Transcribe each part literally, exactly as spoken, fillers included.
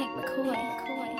Hank McCoy.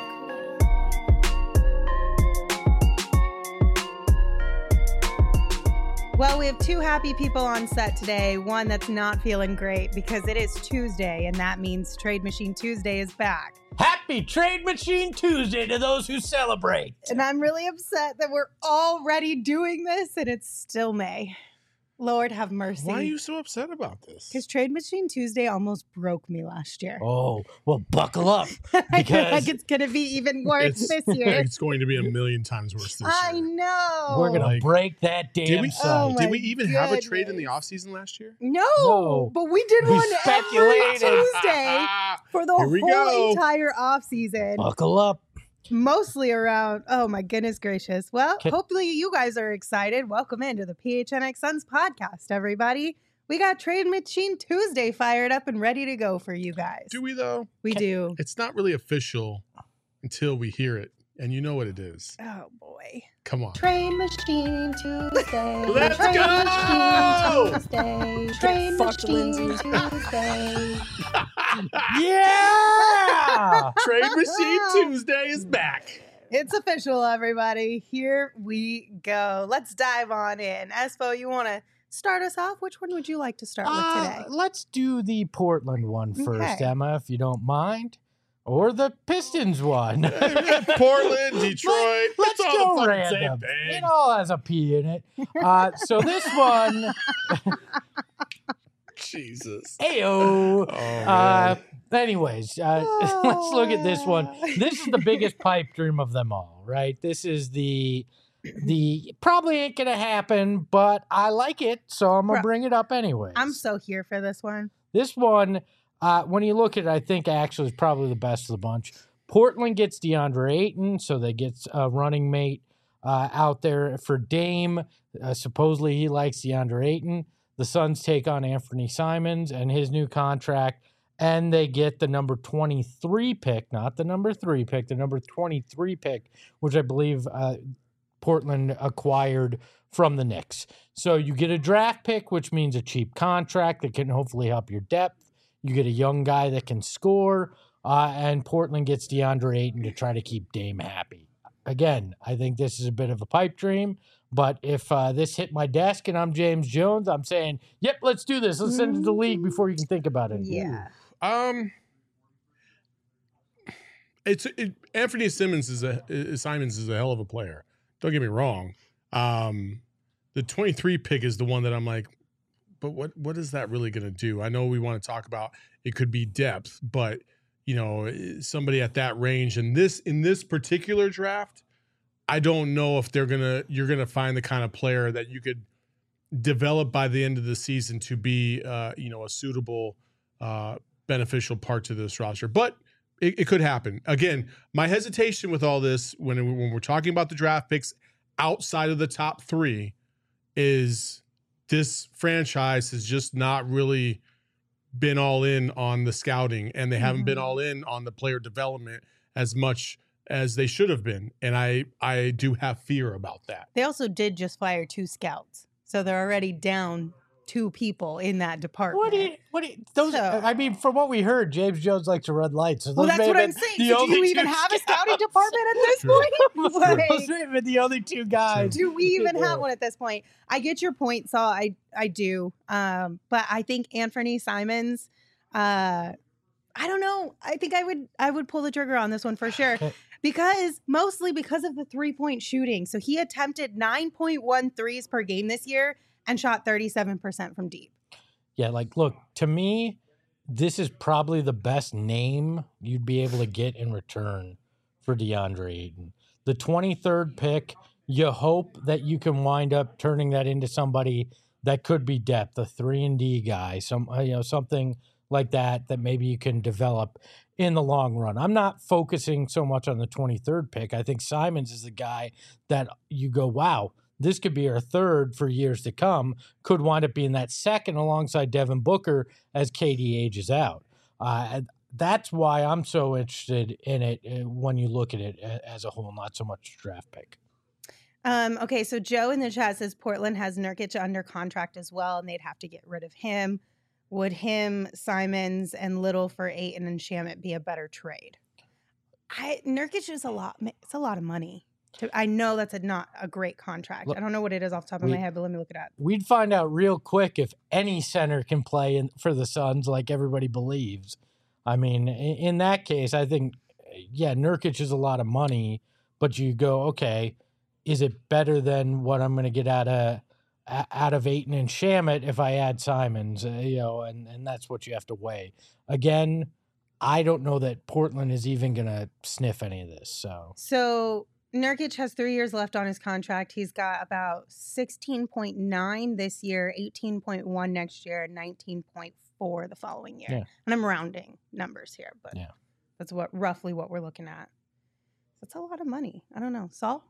Well, we have two happy people on set today. One that's not feeling great because it is Tuesday, and that means Trade Machine Tuesday is back. Happy Trade Machine Tuesday to those who celebrate. And I'm really upset that we're already doing this, and it's still May. Lord have mercy. Why are you so upset about this? Because Trade Machine Tuesday almost broke me last year. Oh, well, buckle up. I feel Because like it's going to be even worse It's- this year. It's going to be a million times worse this I year. know. we're going to Like, break that damn Did we, site. Oh my did we even have a trade in the goodness. offseason last year? No, No. but we did We one every speculated. Tuesday for the Here we whole go. entire offseason. Buckle up. Mostly around, oh my goodness gracious. Well, Okay. hopefully you guys are excited. Welcome into the P H N X Suns podcast, everybody. We got Trade Machine Tuesday fired up and ready to go for you guys. Do we, though? we do. It's not really official until we hear it. And you know what it is. Oh boy. Come on. Trade Machine Tuesday. Let's Trade go! Machine Tuesday. Trade fucked, Machine Lindsay. Tuesday. Yeah! Trade Machine Tuesday is back. It's official, everybody. Here we go. Let's dive on in. Espo, you want to start us off? Which one would you like to start with Uh, today? let's do the Portland one first, Okay. Emma, if you don't mind. Or the Pistons one. Portland, Detroit. Let's it's all go the fucking same random. thing. It all has a P in it. Uh, so this one, Jesus. ayo. Oh, Uh, man. anyways, uh, let's look at this one. This is the biggest pipe dream of them all, right? This is the the probably ain't gonna happen, but I like it, so I'm gonna Bro, bring it up anyways. I'm so here for this one. This one, uh, when you look at it, I think actually is probably the best of the bunch. Portland gets DeAndre Ayton, so they get a running mate uh, out there for Dame. Uh, supposedly he likes DeAndre Ayton. The Suns take on Anthony Simons and his new contract, and they get the number twenty-three pick, not the number three pick, the number twenty-three pick, which I believe uh, Portland acquired from the Knicks. So you get a draft pick, which means a cheap contract that can hopefully help your depth. You get a young guy that can score, uh, and Portland gets DeAndre Ayton to try to keep Dame happy. Again, I think this is a bit of a pipe dream, but if uh, this hit my desk and I'm James Jones, I'm saying, yep, let's do this. Let's send it to the league before you can think about it. Yeah. Um, it's it, Anthony Simmons is a is, Simons is a hell of a player. Don't get me wrong. Um, the twenty-three pick is the one that I'm like, but what what is that really going to do? I know we want to talk about it could be depth, but you know, somebody at that range in this in this particular draft, I don't know if they're gonna you're gonna find the kind of player that you could develop by the end of the season to be uh, you know a suitable uh, beneficial part to this roster, but it, it could happen. Again, my hesitation with all this when when we're talking about the draft picks outside of the top three is this franchise has just not really been all in on the scouting, and they haven't Mm-hmm. been all in on the player development as much as they should have been. And I, I do have fear about that. They also did just fire two scouts. So they're already down two people in that department. What do you, what do you, those, So- I mean, from what we heard, James Jones likes to run lights. So well, those that's may what have I'm been saying. the So do only you even two have a scouting scouts. department at this True. point? Like, Those may have been the only two guys. do we even Yeah. have one at this point? I get your point, Saul. I I do. Um, but I think Anthony Simons, uh, I don't know. I think I would I would pull the trigger on this one for sure. Okay. Because mostly because of the three-point shooting. So he attempted nine point one threes per game this year and shot thirty-seven percent from deep. Yeah, like, look, to me, this is probably the best name you'd be able to get in return for DeAndre Ayton. The twenty-third pick, you hope that you can wind up turning that into somebody that could be depth, a three and D guy, some uh, you know something like that that maybe you can develop in the long run. I'm not focusing so much on the twenty-third pick. I think Simons is the guy that you go, wow, this could be our third for years to come, could wind up being that second alongside Devin Booker as K D ages out. Uh, that's why I'm so interested in it uh, when you look at it a- as a whole, not so much draft pick. Um, okay, so Joe in the chat says Portland has Nurkic under contract as well, and they'd have to get rid of him. Would him, Simons, and Little for Ayton and Shamet be a better trade? I Nurkic is a lot. It's a lot of money. To, I know that's a, not a great contract. Look, I don't know what it is off the top of we, my head, but let me look it up. We'd find out real quick if any center can play in, for the Suns like everybody believes. I mean, in, in that case, I think, yeah, Nurkic is a lot of money, but you go, okay, is it better than what I'm going to get out of out of Ayton and Shamet if I add Simons? Uh, you know, and, and that's what you have to weigh. Again, I don't know that Portland is even going to sniff any of this. So, so Nurkic has three years left on his contract. He's got about sixteen point nine this year, eighteen point one next year, and nineteen point four the following year. Yeah. And I'm rounding numbers here, but yeah. that's what roughly what we're looking at. That's a lot of money. I don't know. Saul?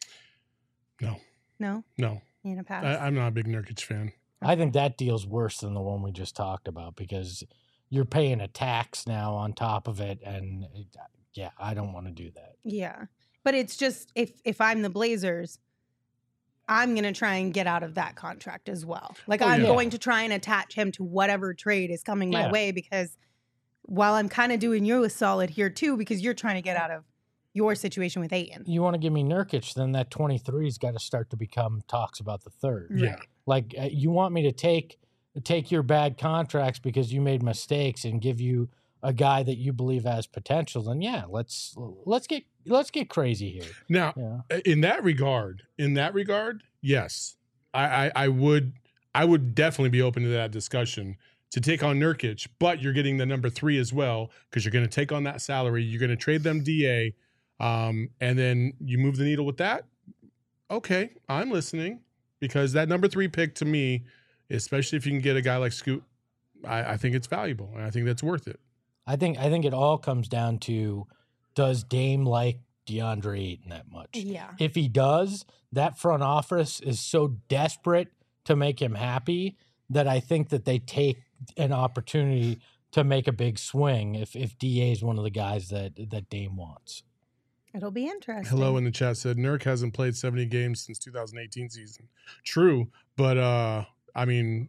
No. No? No. You gonna pass? I, I'm not a big Nurkic fan. I think that deal's worse than the one we just talked about because you're paying a tax now on top of it. And it, yeah, I don't want to do that. Yeah. But it's just, if if I'm the Blazers, I'm going to try and get out of that contract as well. Like, Oh, I'm yeah. going to try and attach him to whatever trade is coming my Yeah. way, because while I'm kind of doing you a solid here too, because you're trying to get out of your situation with Ayton. You want to give me Nurkic, then that twenty-three's got to start to become talks about the third. Yeah. Right. Like, uh, you want me to take take your bad contracts because you made mistakes and give you a guy that you believe has potential, then yeah, let's let's get let's get crazy here. Now, Yeah. in that regard, in that regard, yes, I, I, I would, I would definitely be open to that discussion to take on Nurkic, but you're getting the number three as well because you're going to take on that salary. You're going to trade them D A, um, and then you move the needle with that. Okay, I'm listening, because that number three pick to me, especially if you can get a guy like Scoot, I, I think it's valuable and I think that's worth it. I think I think it all comes down to, does Dame like DeAndre Ayton that much? Yeah. If he does, that front office is so desperate to make him happy that I think that they take an opportunity to make a big swing if if D A is one of the guys that that Dame wants. It'll be interesting. Hello in the chat said Nurk hasn't played seventy games since two thousand eighteen season. True, but uh, I mean,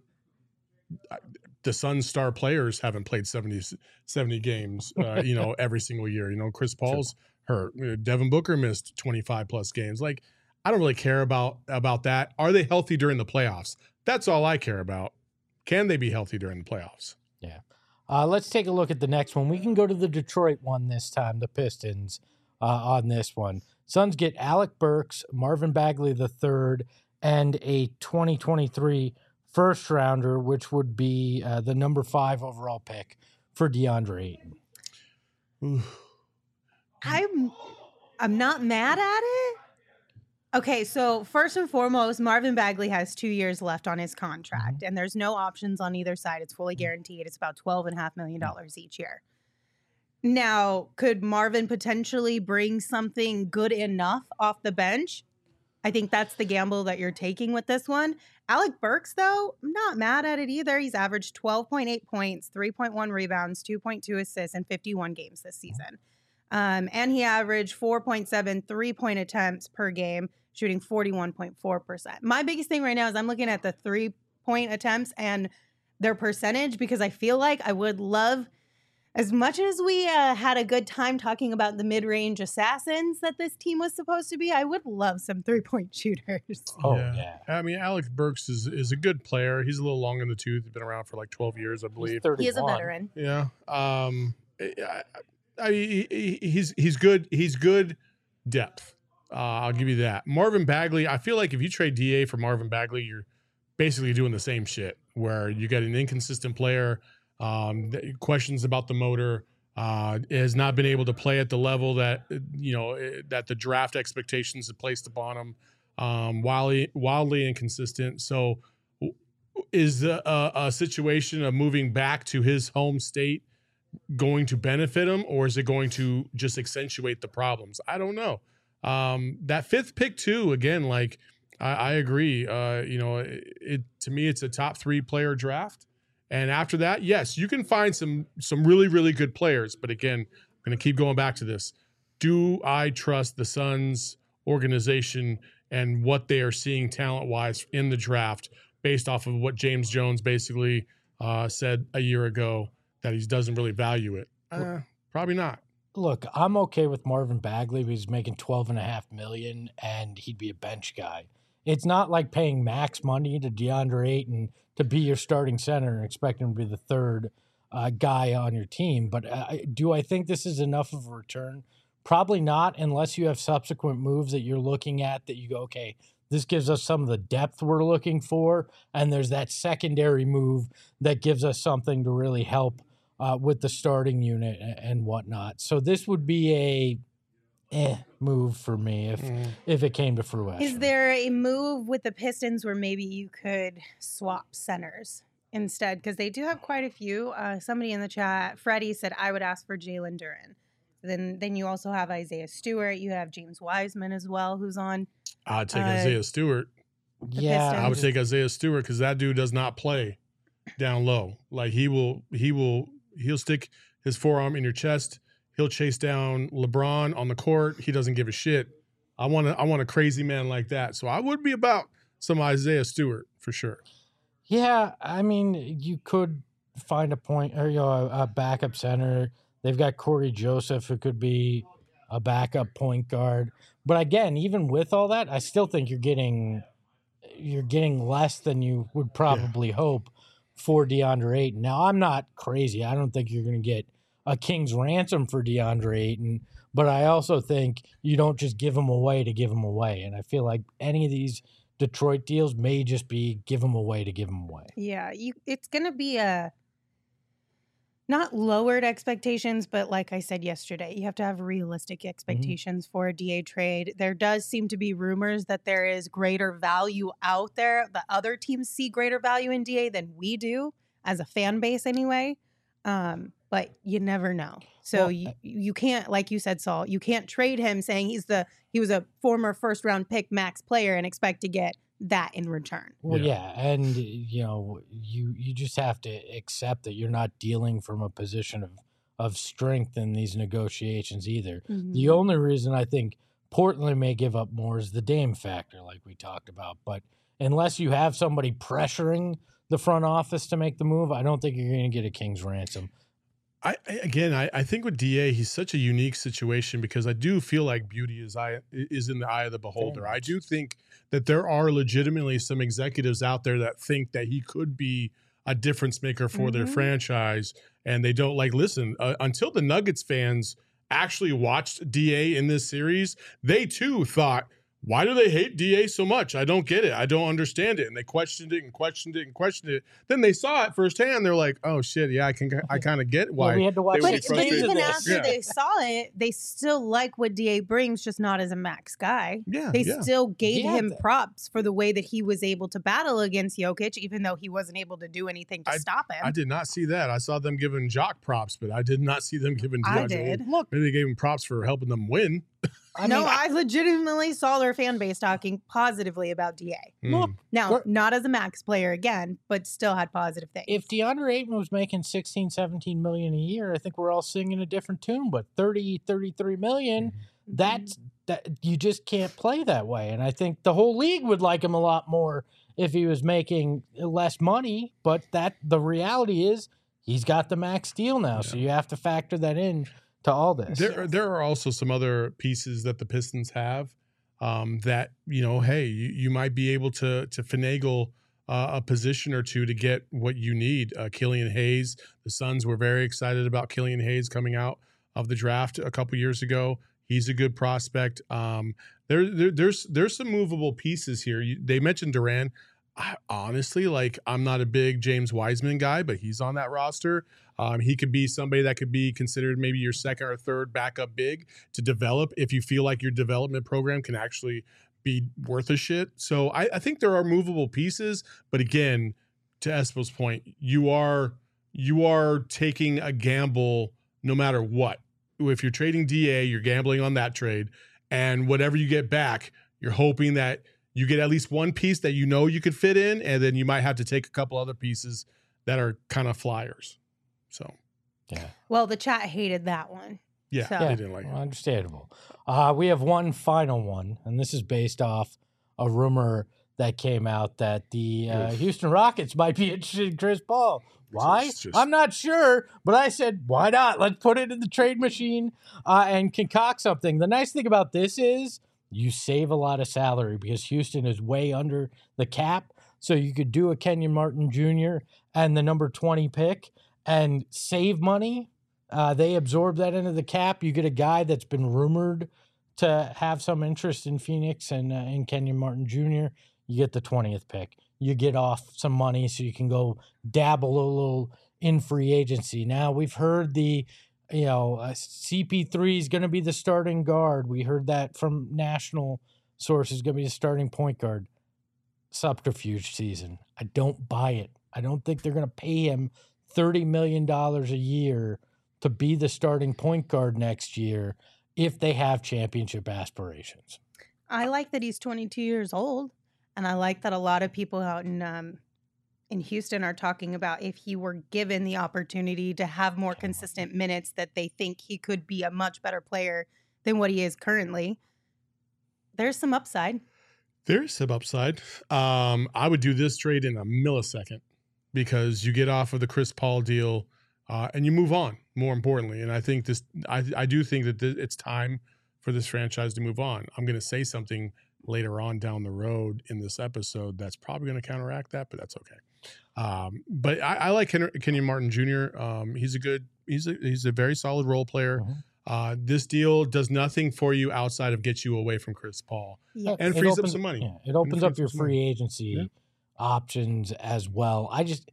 the Suns' star players haven't played seventy, seventy games, uh, you know, every single year. You know, Chris Paul's hurt. You know, Devin Booker missed twenty-five plus games. Like, I don't really care about about that. Are they healthy during the playoffs? That's all I care about. Can they be healthy during the playoffs? Yeah. Uh, let's take a look at the next one. We can go to the Detroit one this time, the Pistons, uh, on this one. Suns get Alec Burks, Marvin Bagley the third, and a twenty twenty-three first rounder, which would be uh, the number five overall pick for DeAndre Ayton. Ooh. I'm I'm not mad at it. Okay, so first and foremost, Marvin Bagley has two years left on his contract, and there's no options on either side. It's fully guaranteed. It's about twelve and a half million dollars each year. Now, could Marvin potentially bring something good enough off the bench? I think that's the gamble that you're taking with this one. Alec Burks, though, I'm not mad at it either. He's averaged twelve point eight points, three point one rebounds, two point two assists in fifty-one games this season. Um, and he averaged four point seven three-point attempts per game, shooting forty-one point four percent. My biggest thing right now is I'm looking at the three-point attempts and their percentage, because I feel like I would love, as much as we uh, had a good time talking about the mid-range assassins that this team was supposed to be, I would love some three-point shooters. Oh, yeah. I mean, Alex Burks is, is a good player. He's a little long in the tooth. He's been around for like twelve years, I He's believe. He is a thirty-one. veteran. Yeah. Um, I, I, he, he's he's good. He's good depth. Uh, I'll give you that. Marvin Bagley. I feel like if you trade D A for Marvin Bagley, you're basically doing the same shit. Where you get an inconsistent player, um, questions about the motor, uh, has not been able to play at the level that you know that the draft expectations have placed upon him. Um, wildly wildly inconsistent. So, is the, uh, a situation of moving back to his home state going to benefit him, or is it going to just accentuate the problems? I don't know. Um, that fifth pick too, again, like I, I agree. Uh, you know, it, it to me, it's a top three player draft. And after that, yes, you can find some, some really, really good players. But again, I'm going to keep going back to this. Do I trust the Suns organization and what they are seeing talent wise in the draft based off of what James Jones basically uh, said a year ago, that he doesn't really value it? Uh, probably not. look, I'm okay with Marvin Bagley because he's making twelve and a half million and he'd be a bench guy. It's not like paying max money to DeAndre Ayton to be your starting center and expecting him to be the third uh, guy on your team. But uh, do I think this is enough of a return? Probably not, unless you have subsequent moves that you're looking at that you go, okay, this gives us some of the depth we're looking for, and there's that secondary move that gives us something to really help uh, with the starting unit and, and whatnot. So this would be a eh move for me if Mm. if it came to fruition. Is there a move with the Pistons where maybe you could swap centers instead? Because they do have quite a few. Uh, somebody in the chat, Freddie, said, I would ask for Jalen Duren. Then then you also have Isaiah Stewart. You have James Wiseman as well, who's on. I'd take Uh, Isaiah Stewart. yeah, Pistons. I would take Isaiah Stewart because that dude does not play down low. Like he will, he will, he'll stick his forearm in your chest. He'll chase down LeBron on the court. He doesn't give a shit. I want to, I want a crazy man like that. So I would be about some Isaiah Stewart for sure. Yeah, I mean, you could find a point or you know a, a backup center. They've got Corey Joseph, who could be a backup point guard. But again, even with all that, I still think you're getting you're getting less than you would probably hope for DeAndre Ayton. Now, I'm not crazy. I don't think you're going to get a king's ransom for DeAndre Ayton, but I also think you don't just give him away to give him away. And I feel like any of these Detroit deals may just be give him away to give him away. Yeah, you. It's going to be a not lowered expectations, but like I said yesterday, you have to have realistic expectations for a D A trade. There does seem to be rumors that there is greater value out there. The other teams see greater value in D A than we do as a fan base anyway. Um, but you never know. So Well, you, you can't, like you said, Saul, you can't trade him saying he's the he was a former first round pick max player and expect to get that in return. Well, Yeah. yeah, and you know, you you just have to accept that you're not dealing from a position of of strength in these negotiations either. The only reason I think Portland may give up more is the Dame factor, like we talked about. But unless you have somebody pressuring the front office to make the move, I don't think you're going to get a king's ransom. I, I again, I, I think with D A, he's such a unique situation because I do feel like beauty is eye is in the eye of the beholder. Very I much. do think that there are legitimately some executives out there that think that he could be a difference maker for their Mhm. franchise, and they don't like listen uh, until the Nuggets fans actually watched D A in this series. They too thought, why do they hate D A so much? I don't get it. I don't understand it. And they questioned it and questioned it and questioned it. Then they saw it firsthand. They're like, oh shit, yeah, I can, I kind of get why. Well, we had to watch would But, be but six frustrated. games of even this. after Yeah. they saw it, they still like what D A brings, just not as a max guy. yeah, They yeah. still gave Yeah, him th- props for the way that he was able to battle against Jokic, even though he wasn't able to do anything to I- stop him. I did not see that. I saw them giving Jock props, but I did not see them giving I DeAndre. did. Look, Maybe they gave him props for helping them win. I no, mean, I legitimately saw their fan base talking positively about D A. Look, Mm. Now, Gr- not as a max player again, but still had positive things. if DeAndre Ayton was making sixteen, seventeen million a year, I think we're all singing a different tune. But thirty, thirty-three million, Mm-hmm. that's that you just can't play that way. And I think the whole league would like him a lot more if he was making less money. But that the reality is he's got the max deal now, so you have to factor that in to all this. There, Yes. there are also some other pieces that the Pistons have um, that you know. Hey, you, you might be able to to finagle uh, a position or two to get what you need. Uh, Killian Hayes, the Suns were very excited about Killian Hayes coming out of the draft a couple years ago. He's a good prospect. Um, there, there, there's there's some movable pieces here. You, they mentioned Duran. I, honestly, like I'm not a big James Wiseman guy, but he's on that roster. Um, he could be somebody that could be considered maybe your second or third backup big to develop if you feel like your development program can actually be worth a shit. So I, I think there are movable pieces, but again, to Espo's point, you are you are taking a gamble no matter what. If you're trading D A, you're gambling on that trade, and whatever you get back, you're hoping that you get at least one piece that you know you could fit in, and then you might have to take a couple other pieces that are kind of flyers. So yeah. well, the chat hated that one. yeah, So- they Yeah, didn't like well, it. understandable. Uh, we have one final one, and this is based off a rumor that came out that the uh, Oof. Houston Rockets might be interested in Chris Paul. Why? It's just- I'm not sure, but I said, why not? Let's put it in the trade machine uh, and concoct something. The nice thing about this is you save a lot of salary because Houston is way under the cap. So you could do a Kenyon Martin Junior and the number twenty pick and save money. Uh, they absorb that into the cap. You get a guy that's been rumored to have some interest in Phoenix and uh, in Kenyon Martin Junior You get the twentieth pick. You get off some money so you can go dabble a little in free agency. Now we've heard the, you know, uh, C P three is going to be the starting guard. We heard that from national sources, going to be the starting point guard. Subterfuge season. I don't buy it. I don't think they're going to pay him thirty million dollars a year to be the starting point guard next year if they have championship aspirations. I like that he's twenty-two years old, and I like that a lot of people out in um, in Houston are talking about if he were given the opportunity to have more consistent minutes, that they think he could be a much better player than what he is currently. There's some upside. There's some upside. Um, I would do this trade in a millisecond because you get off of the Chris Paul deal uh, and you move on, more importantly. And I think this, I, I do think that th- it's time for this franchise to move on. I'm going to say something later on down the road in this episode that's probably going to counteract that, but that's okay. Um, but I, I like Ken- Kenyon Martin Junior Um, he's a good, he's a, he's a very solid role player. Mm-hmm. Uh, this deal does nothing for you outside of get you away from Chris Paul. Yes. And It frees opens- up some money. Yeah, it opens frees up your up some money. free agency Yeah. options as well. I just,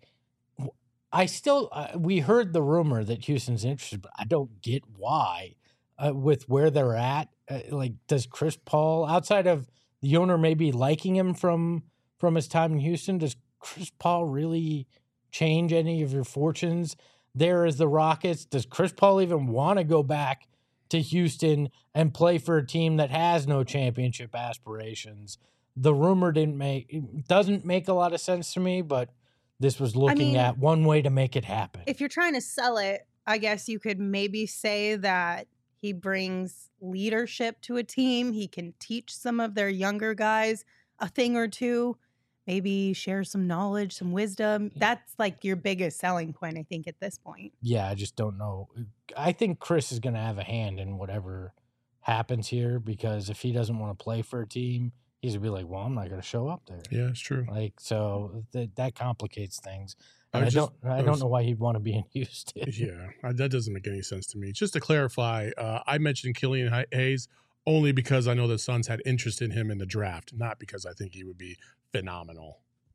I still, uh, we heard the rumor that Houston's interested, but I don't get why uh, with where they're at. Uh, like, does Chris Paul, outside of the owner maybe liking him from from his time in Houston, does Chris Paul really change any of your fortunes there as the Rockets? Does Chris Paul even want to go back to Houston and play for a team that has no championship aspirations? The rumor didn't make it doesn't make a lot of sense to me, but this was looking mean, at one way to make it happen. If you're trying to sell it, I guess you could maybe say that he brings leadership to a team. He can teach some of their younger guys a thing or two, maybe share some knowledge, some wisdom. That's like your biggest selling point, I think, at this point. Yeah, I just don't know. I think Chris is going to have a hand in whatever happens here because if he doesn't want to play for a team, he's going to be like, well, I'm not going to show up there. Yeah, it's true. Like, so that that complicates things. I And I, was don't just- I I don't was- know why he'd want to be in Houston. Yeah, I- that doesn't make any sense to me. Just to clarify, uh, I mentioned Killian Hay- Hayes only because I know the Suns had interest in him in the draft, not because I think he would be phenomenal.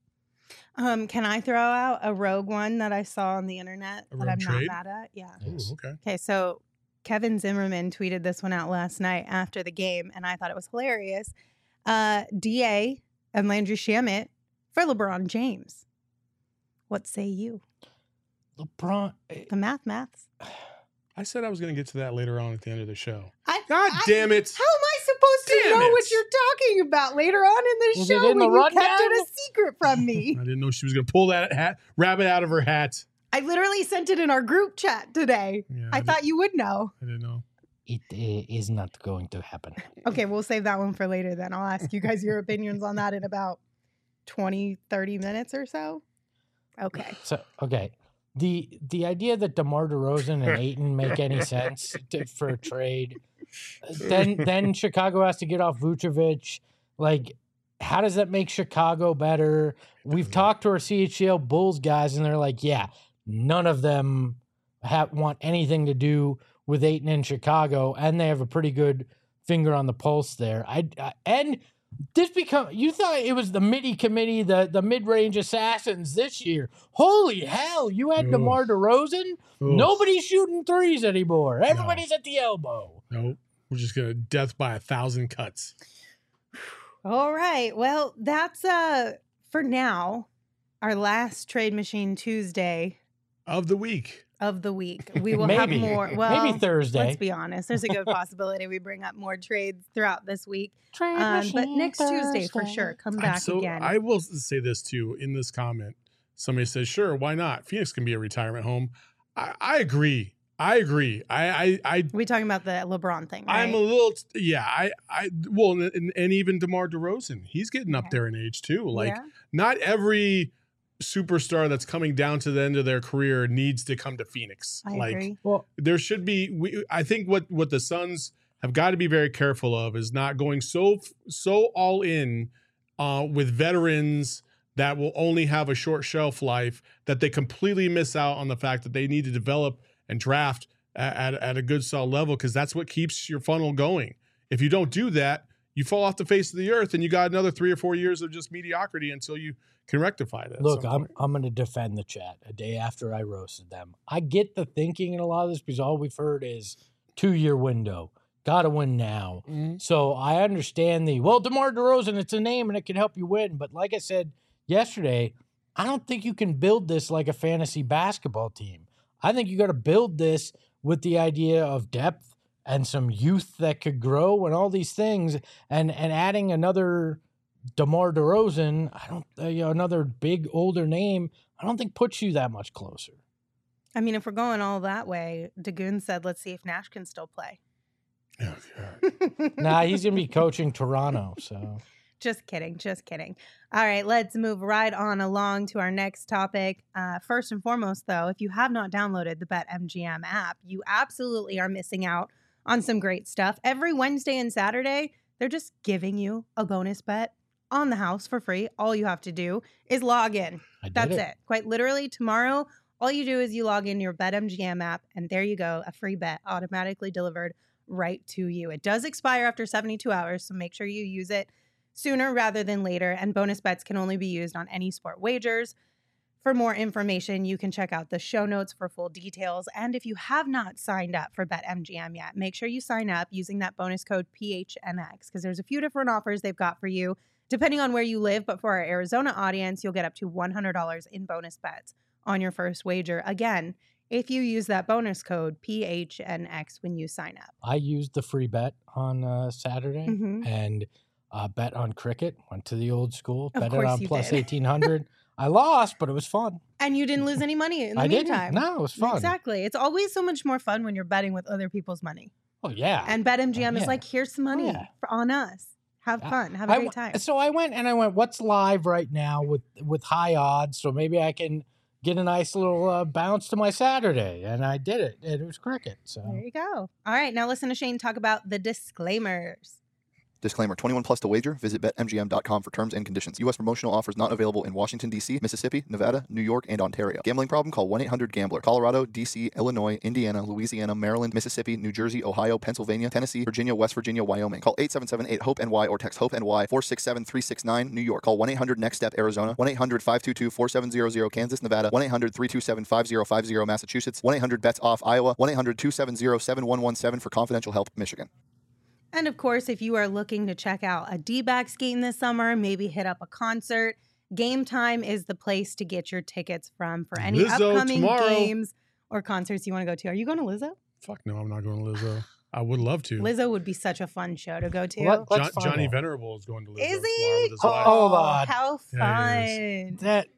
Um, can I throw out a rogue one that I saw on the internet A that rogue I'm trade? not mad at? Yeah. Yes. Ooh, okay. Okay, so Kevin Zimmerman tweeted this one out last night after the game, and I thought it was hilarious. Uh, D A and Landry Shamet for LeBron James. What say you? LeBron. eh, The math maths. I said I was going to get to that later on at the end of the show. I, God I- damn it. How am I supposed to Damn know it. what you're talking about later on in the Was it show in the when you kept rundown? it a secret from me? I didn't know she was going to pull that hat, rabbit out of her hat. I literally sent it in our group chat today. Yeah, I did- thought you would know. I didn't know. It uh, is not going to happen. Okay, we'll save that one for later then. I'll ask you guys your opinions on that in about twenty, thirty minutes or so. Okay. So okay, the the idea that DeMar DeRozan and Ayton make any sense to, for a trade, then then Chicago has to get off Vucevic. Like, how does that make Chicago better? We've doesn't. talked to our C H L Bulls guys, and they're like, yeah, none of them have want anything to do with Ayton in Chicago, and they have a pretty good finger on the pulse there. I, I and. This become you thought it was the midi committee, the the mid range assassins this year. Holy hell! You had Ugh. DeMar DeRozan. Ugh. Nobody's shooting threes anymore. Everybody's at the elbow. Nope. We're just going to death by a thousand cuts. All right. Well, that's uh for now our last Trade Machine Tuesday Of the week. of the week. We will Maybe. have more. Well, Maybe Thursday. let's be honest. There's a good possibility we bring up more trades throughout this week. Trade Um, but machine next Tuesday for Thursday. sure. Come I'm back so- again. I will say this too in this comment. Somebody says, sure, why not? Phoenix can be a retirement home. I, I agree. I agree. I, I, I We talking about the LeBron thing, right? I'm a little, yeah. I, I, well, and, and even DeMar DeRozan, he's getting up Okay. there in age too. Like, Yeah. not every superstar that's coming down to the end of their career needs to come to Phoenix. I like, agree. Well, there should be. We, I think what what the Suns have got to be very careful of is not going so so all in uh, with veterans that will only have a short shelf life, that they completely miss out on the fact that they need to develop and draft at, at, at a good solid level, because that's what keeps your funnel going. If you don't do that, you fall off the face of the earth, and you got another three or four years of just mediocrity until you can rectify that. look, I'm I'm going to defend the chat a day after I roasted them. I get the thinking in a lot of this because all we've heard is two year window, got to win now. Mm-hmm. So I understand the well, DeMar DeRozan, it's a name and it can help you win. But like I said yesterday, I don't think you can build this like a fantasy basketball team. I think you got to build this with the idea of depth and some youth that could grow and all these things, and and adding another DeMar DeRozan, I don't, uh, you know, another big older name, I don't think puts you that much closer. I mean, if we're going all that way, Dagoon said, let's see if Nash can still play. Oh, God. Nah, he's gonna be coaching Toronto, so. Just kidding. Just kidding. All right, let's move right on along to our next topic. Uh, first and foremost, though, if you have not downloaded the BetMGM app, you absolutely are missing out on some great stuff. Every Wednesday and Saturday, they're just giving you a bonus bet on the house for free. All you have to do is log in. I did That's it. it. Quite literally, tomorrow, all you do is you log in your BetMGM app, and there you go, a free bet automatically delivered right to you. It does expire after seventy-two hours, so make sure you use it sooner rather than later, and bonus bets can only be used on any sport wagers. For more information, you can check out the show notes for full details. And if you have not signed up for BetMGM yet, make sure you sign up using that bonus code P H N X, because there's a few different offers they've got for you, depending on where you live. But for our Arizona audience, you'll get up to one hundred dollars in bonus bets on your first wager. Again, if you use that bonus code P H N X when you sign up. I used the free bet on uh, Saturday Mhm. and uh, bet on cricket. Went to the old school, Of bet it course on you plus did. eighteen hundred. I lost, but it was fun. And you didn't lose any money in the I meantime. didn't. No, it was fun. Exactly. It's always so much more fun when you're betting with other people's money. Oh yeah. And BetMGM yeah. is like, here's some money Oh, yeah. for, on us. Have Yeah. fun. Have a I great w- time. So I went and I went, what's live right now with with high odds? So maybe I can get a nice little uh, bounce to my Saturday, and I did it. And it was cricket. So There you go. All right. Now listen to Shane talk about the disclaimers. Disclaimer, twenty-one plus to wager. Visit bet M G M dot com for terms and conditions. U S promotional offers not available in Washington, D C, Mississippi, Nevada, New York, and Ontario. Gambling problem? Call one eight hundred gambler. Colorado, D C, Illinois, Indiana, Louisiana, Maryland, Mississippi, New Jersey, Ohio, Pennsylvania, Tennessee, Virginia, West Virginia, Wyoming. Call eight seven seven eight hope N Y or text HOPE-N Y four six seven three six nine, New York. Call one eight hundred next step Arizona, one eight hundred five two two four seven zero zero, Kansas, Nevada, one eight hundred three two seven five zero five zero, Massachusetts, one eight hundred bets off Iowa, one eight hundred two seven zero seven one one seven for confidential help, Michigan. And of course, if you are looking to check out a D-backs game this summer, maybe hit up a concert, Game Time is the place to get your tickets from for any Lizzo upcoming tomorrow. games or concerts you want to go to. Are you going to Lizzo? Fuck no, I'm not going to Lizzo. I would love to. Lizzo would be such a fun show to go to. What- Jo- Let's find Johnny out. Venerable is going to Lizzo Is tomorrow he? with his Oh, wife. Hold on. How Yeah, fun. that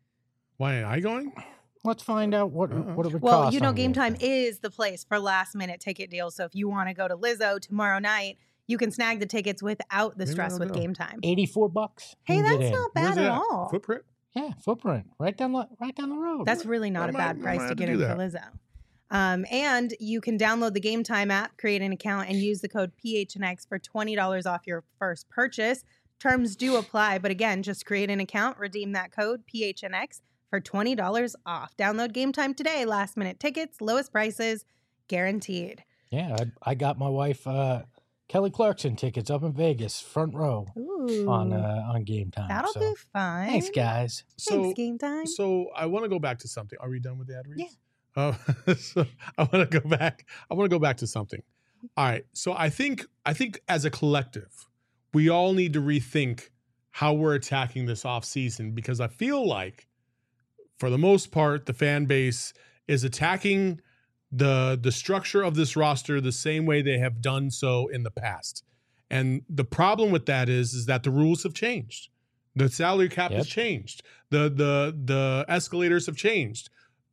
Why ain't I going? let's find out what Uh-uh. what it would Well, cost. you know, on Game Time Time. is the place for last minute ticket deals. So if you want to go to Lizzo tomorrow night, you can snag the tickets without the Maybe stress I'll with go. Game Time. eighty-four bucks. Hey, you can that's get in. not Where's bad it at at? all. Footprint? Yeah, footprint right down the right down the road. That's really not I a might- bad I price might to have to get do in for that. Lizzo. Um, and you can download the Game Time app, create an account, and use the code P H N X for twenty dollars off your first purchase. Terms do apply, but again, just create an account, redeem that code P H N X for twenty dollars off. Download Game Time today. Last minute tickets, lowest prices, guaranteed. yeah. I, I got my wife uh, Kelly Clarkson tickets up in Vegas, front row Ooh, on uh, on Game Time. that'll so. be fun. Thanks, guys. So, Thanks, Game Time. so I want to go back to something. Are we done with the ad reads? Yeah. Uh, so I want to go back. I want to go back to something. All right. So I think I think as a collective, we all need to rethink how we're attacking this off season, because I feel like, for the most part, the fan base is attacking the the structure of this roster the same way they have done so in the past. And the problem with that is, is that the rules have changed. The salary cap Yep. has changed. The the the escalators have changed.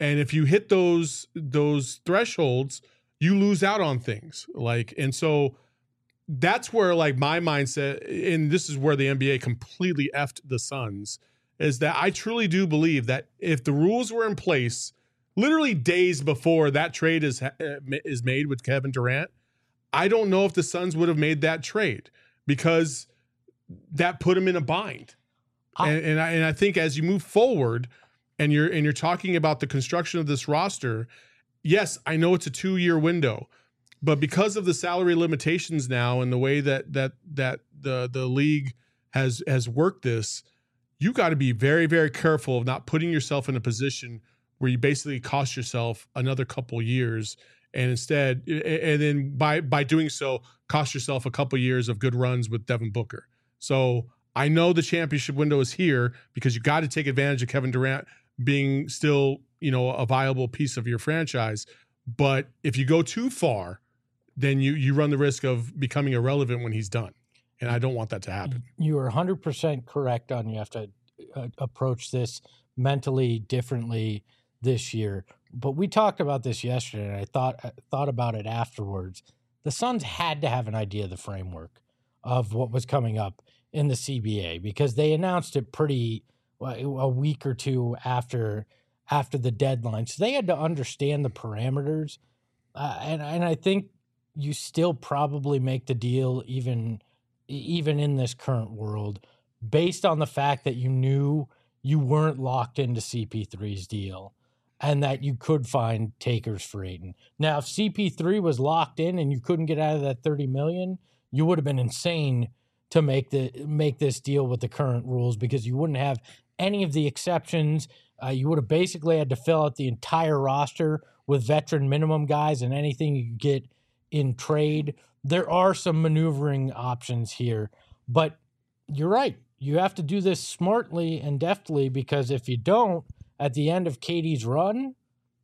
And if you hit those those thresholds, you lose out on things. Like, and so that's where like my mindset, and this is where the N B A completely effed the Suns, is that I truly do believe that if the rules were in place literally days before that trade is is made with Kevin Durant, I don't know if the Suns would have made that trade, because that put them in a bind. I, and and I, and I think as you move forward and you're and you're talking about the construction of this roster, yes, I know it's a two-year window, but because of the salary limitations now and the way that that that the the league has has worked this, you got to be very, very careful of not putting yourself in a position where you basically cost yourself another couple years, and instead, and then by by doing so, cost yourself a couple years of good runs with Devin Booker. So I know the championship window is here because you got to take advantage of Kevin Durant being still, you know, a viable piece of your franchise. But if you go too far, then you you run the risk of becoming irrelevant when he's done. And I don't want that to happen. You are one hundred percent correct on you have to uh, approach this mentally differently this year. But we talked about this yesterday, and I thought I thought about it afterwards. The Suns had to have an idea of the framework of what was coming up in the C B A, because they announced it pretty well, a week or two after after the deadline. So they had to understand the parameters. Uh, and, and I think you still probably make the deal even even in this current world, based on the fact that you knew you weren't locked into C P three's deal and that you could find takers for Ayton. Now, if C P three was locked in and you couldn't get out of that thirty million dollars, you would have been insane to make the make this deal with the current rules, because you wouldn't have any of the exceptions. Uh, you would have basically had to fill out the entire roster with veteran minimum guys and anything you get in trade. There are some maneuvering options here, but you're right. You have to do this smartly and deftly, because if you don't, at the end of K D's run,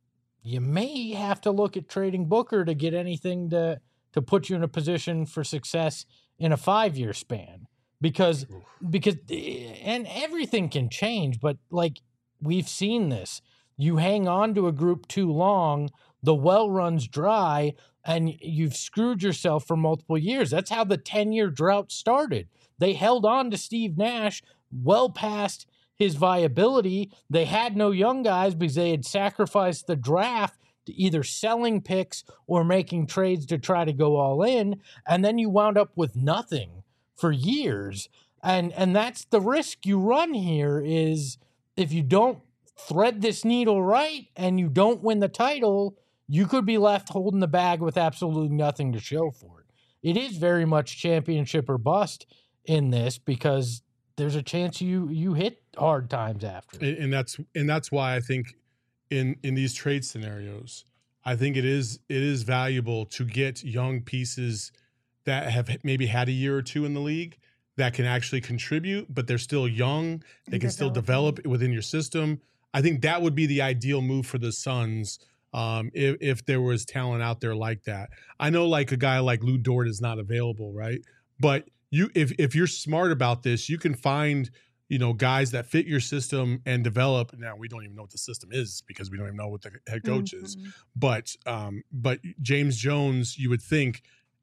you may have to look at trading Booker to get anything to, to put you in a position for success in a five-year span. Because, because, and everything can change, but like we've seen this. You hang on to a group too long, the well runs dry, and you've screwed yourself for multiple years. That's how the ten-year drought started. They held on to Steve Nash well past his viability. They had no young guys because they had sacrificed the draft to either selling picks or making trades to try to go all in, and then you wound up with nothing for years. And and that's the risk you run here, is if you don't thread this needle right and you don't win the title, you could be left holding the bag with absolutely nothing to show for it. It is very much championship or bust in this, because there's a chance you you hit hard times after. And, and that's and that's why I think in in these trade scenarios, I think it is it is valuable to get young pieces that have maybe had a year or two in the league that can actually contribute, but they're still young. They can still develop within your system. I think that would be the ideal move for the Suns, um, if, if there was talent out there like that. I know like a guy like Lou Dort is not available, right? But you, if if you're smart about this, you can find, you know, guys that fit your system and develop. Now, we don't even know what the system is because we don't even know what the head coach mm-hmm. is. But um, but James Jones, you would think,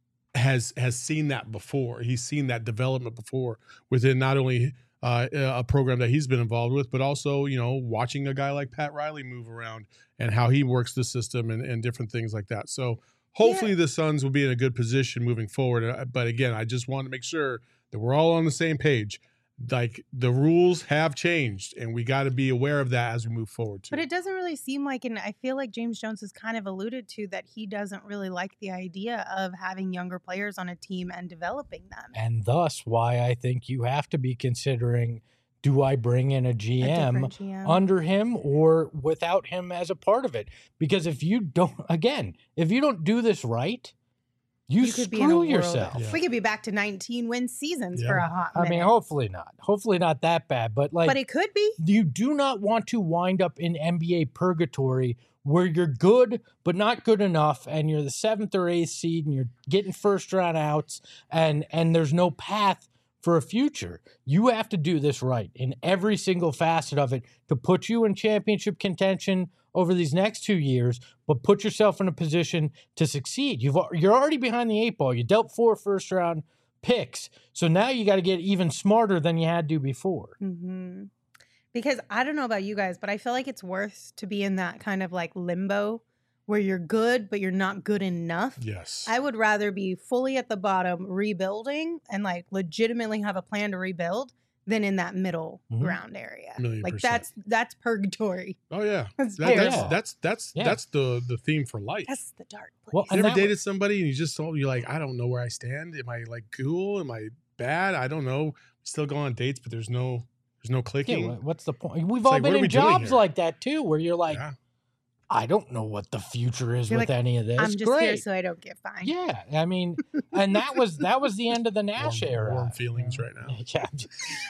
has has seen that before. He's seen that development before within not only uh, a program that he's been involved with, but also, you know, watching a guy like Pat Riley move around and how he works the system and, and different things like that. So hopefully yeah. the Suns will be in a good position moving forward. But again, I just want to make sure that we're all on the same page. Like, the rules have changed, and we got to be aware of that as we move forward too. But it doesn't really seem like, and I feel like James Jones has kind of alluded to that he doesn't really like the idea of having younger players on a team and developing them. And thus why I think you have to be considering, do I bring in a G M, a G M under him or without him as a part of it? Because if you don't, again, if you don't do this right, You, you could screw be yourself. Yeah. We could be back to nineteen win seasons yeah. for a hot minute. I mean, hopefully not. Hopefully not that bad. But like, but it could be. You do not want to wind up in N B A purgatory where you're good but not good enough, and you're the seventh or eighth seed, and you're getting first round outs, and and there's no path for a future. You have to do this right in every single facet of it to put you in championship contention over these next two years, but put yourself in a position to succeed. You've al- you're already behind the eight ball. You dealt four first round picks, so now you got to get even smarter than you had to before. Mm-hmm. Because I don't know about you guys, but I feel like it's worse to be in that kind of like limbo where you're good, but you're not good enough. Yes. I would rather be fully at the bottom rebuilding and like legitimately have a plan to rebuild than in that middle Mhm. ground area. Million Like percent. that's that's purgatory. Oh yeah. That's That- very that's Yeah. that's that's Yeah. that's the the theme for life. That's the dark place. Well, You and ever that dated was- somebody and you just told you're like, I don't know where I stand. Am I like cool? Am I bad? I don't know. Still go on dates, but there's no there's no Yeah, clicking. wha- what's the point? We've It's all like, what been are in we doing jobs here? like that too, where you're like, Yeah. I don't know what the future is You're with like, any of this. I'm just Great. here so I don't get fined. Yeah, I mean, and that was that was the end of the Nash Warm- era. warm feelings right now. Yeah, I'm just,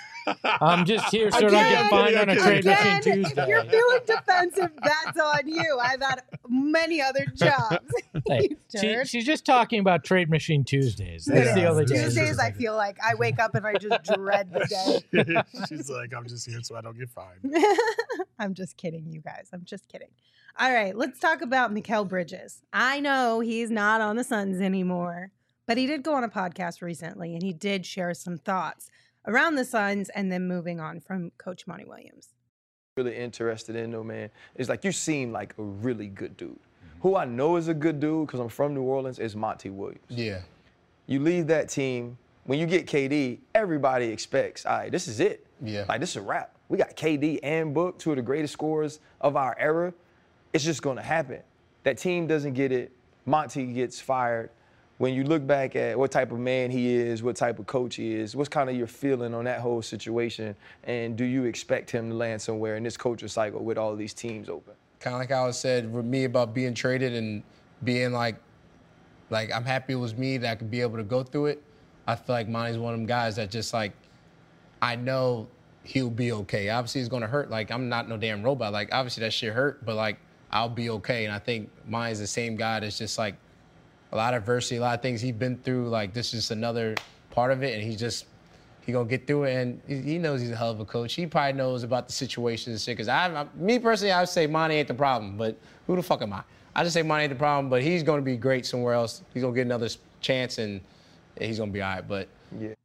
I'm just here so I don't Again, get fined on a again, trade Again, machine if Tuesday. you're feeling defensive, that's on you. I've had many other jobs. Hey, You she, turd. she's just talking about trade machine Tuesdays. That's Yeah, the only it is. difference. Tuesdays, I feel like I wake up and I just dread the day. She's like, I'm just here so I don't get fined. I'm just kidding, you guys. I'm just kidding. All right, let's talk about Mikal Bridges. I know he's not on the Suns anymore, but he did go on a podcast recently and he did share some thoughts around the Suns and then moving on from Coach Monty Williams. Really interested in though, man, is like you seem like a really good dude. Who I know is a good dude because I'm from New Orleans is Monty Williams. Yeah. You leave that team, when you get K D, everybody expects, all right, this is it. Yeah. Like this is a wrap. We got K D and Book, two of the greatest scorers of our era. It's just gonna happen. That team doesn't get it. Monty gets fired. When you look back at what type of man he is, what type of coach he is, what's kind of your feeling on that whole situation? And do you expect him to land somewhere in this coaching cycle with all these teams open? Kind of like I was said with me about being traded and being like, like I'm happy it was me that I could be able to go through it. I feel like Monty's one of them guys that just like, I know he'll be okay. Obviously it's gonna hurt. Like I'm not no damn robot. Like obviously that shit hurt, but like I'll be okay. And I think Monty's the same guy that's just like a lot of adversity, a lot of things he's been through. Like this is another part of it, and he's just he gonna get through it. And he, he knows he's a hell of a coach. He probably knows about the situation and shit. Cause I, I, me personally, I would say Monty ain't the problem, but who the fuck am I? I just say Monty ain't the problem, but he's gonna be great somewhere else. He's gonna get another s- chance, and he's gonna be all right. But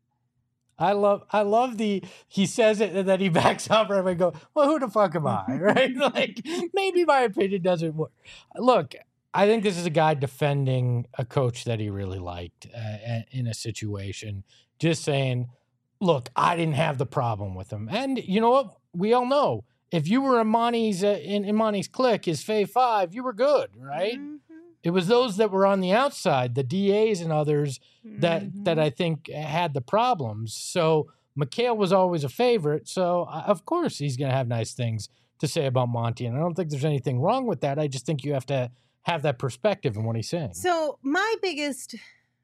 I love, I love the he says it and then he backs up and I go, well, who the fuck am I, right? Like maybe my opinion doesn't work. Look, I think this is a guy defending a coach that he really liked uh, in a situation, just saying, look, I didn't have the problem with him, and you know what? We all know if you were in Monty's uh, in, in Monty's clique, his fave five, you were good, right? Mhm. It was those that were on the outside, the D As and others, that Mhm. that I think had the problems. So Mikal was always a favorite. So uh, of course he's going to have nice things to say about Monty, and I don't think there's anything wrong with that. I just think you have to have that perspective in what he's saying. So my biggest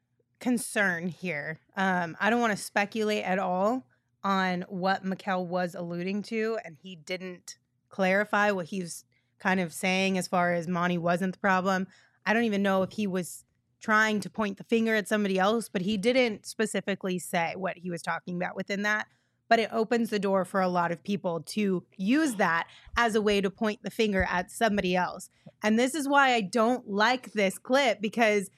concern here, um, I don't want to speculate at all on what Mikal was alluding to, and he didn't clarify what he was kind of saying as far as Monty wasn't the problem. I don't even know if he was trying to point the finger at somebody else, but he didn't specifically say what he was talking about within that. But it opens the door for a lot of people to use that as a way to point the finger at somebody else. And this is why I don't like this clip, because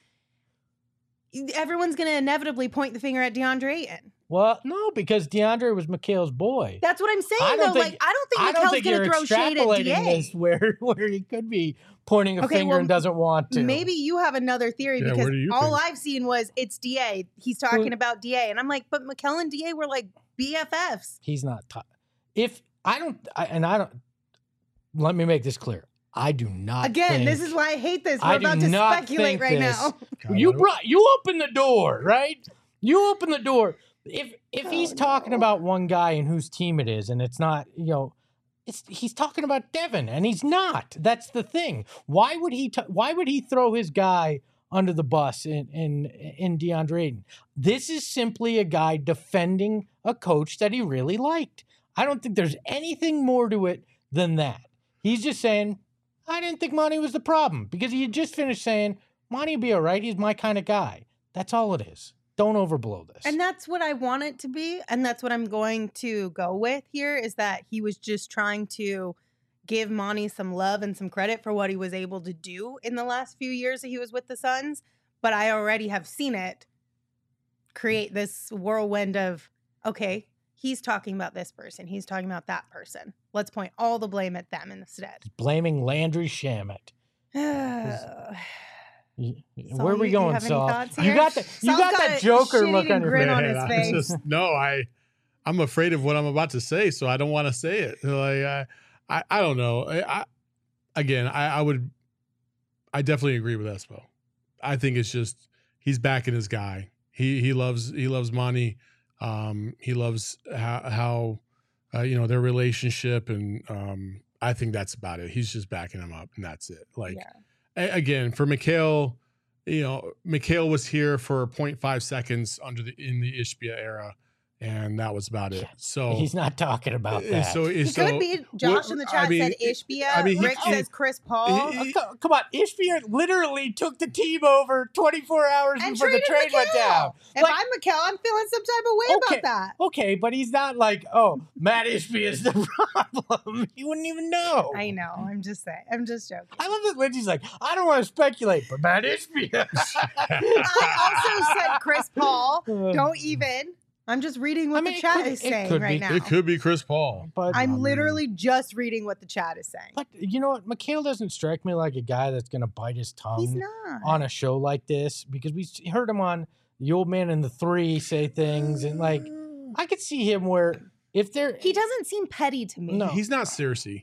everyone's going to inevitably point the finger at DeAndre Ayton. Well, no, because DeAndre was Mikal's boy. That's what I'm saying, I don't though. think- like, I don't think I don't Mikal's think going you're to throw shade at extrapolating D A. this where where he could be pointing a Okay, finger well, and doesn't want to. Maybe you have another theory, Yeah, because where do you all think? I've seen was it's D A. He's talking Well- about D A. And I'm like, but Mikal and D A were like B F Fs. he's not. T- if I don't, I, and I don't. Let me make this clear. I do not. Again, this think- is why I hate this. We're I do about to not speculate think right this- now. God, You I don't- brought you open the door, right? You open the door. If if Oh, he's talking about one guy and whose team it is, and it's not, you know, it's he's talking about Devin, and he's not. That's the thing. Why would he? T- why would he throw his guy under the bus in in in DeAndre Ayton? This is simply a guy defending a coach that he really liked. I don't think there's anything more to it than that. He's just saying, I didn't think Monty was the problem, because he had just finished saying, Monty will be all right. He's my kind of guy. That's all it is. Don't overblow this. And that's what I want it to be. And that's what I'm going to go with here, is that he was just trying to give Monty some love and some credit for what he was able to do in the last few years that he was with the Suns. But I already have seen it create this whirlwind of, okay, he's talking about this person. He's talking about that person. Let's point all the blame at them instead. Blaming Landry Shamet. Saul, Where are we you- you going, have any Saul? thoughts You here? got the you Saul's got got that a Joker look shit-eating on your grin face. on his I face. just- no, I, I'm afraid of what I'm about to say, so I don't want to say it. Like, I, I, I don't know. I, I again, I, I would, I definitely agree with Espo. I think it's just he's backing his guy. He he loves he loves Monty. Um, he loves how how uh, you know their relationship, and um, I think that's about it. He's just backing him up, and that's it. Like Yeah. a- again, for Mikhail, you know, Mikhail was here for zero point five seconds under the in the Ishbia era, and that was about it. So He's not talking about uh, that. So He so could be. Josh what- in the I chat mean, said Ishbia. I mean, he- Rick he- says Chris Paul. he- Oh, co- come on, Ishbia literally took the team over twenty-four hours and before the traded trade went down. Mikal. If Like- I'm Mikal, I'm feeling some type of way Okay. about that. Okay, but he's not like, oh, Matt Ishbia is the problem. You wouldn't even know. I know. I'm just saying. I'm just joking. I love that Lindsay's like, I don't want to speculate, but Matt Ishbia. I also said Chris Paul. Uh, Don't even. I'm just reading what I mean, the it chat could- is it saying could right be. now. it could be Chris Paul. But, I'm Um, literally just reading what the chat is saying. but you know what? Mikhail doesn't strike me like a guy that's going to bite his tongue He's not. on a show like this because we s- heard him on The Old Man and the Three say things. And like, I could see him where if they're. He doesn't seem petty to me. No. He's not Cersei.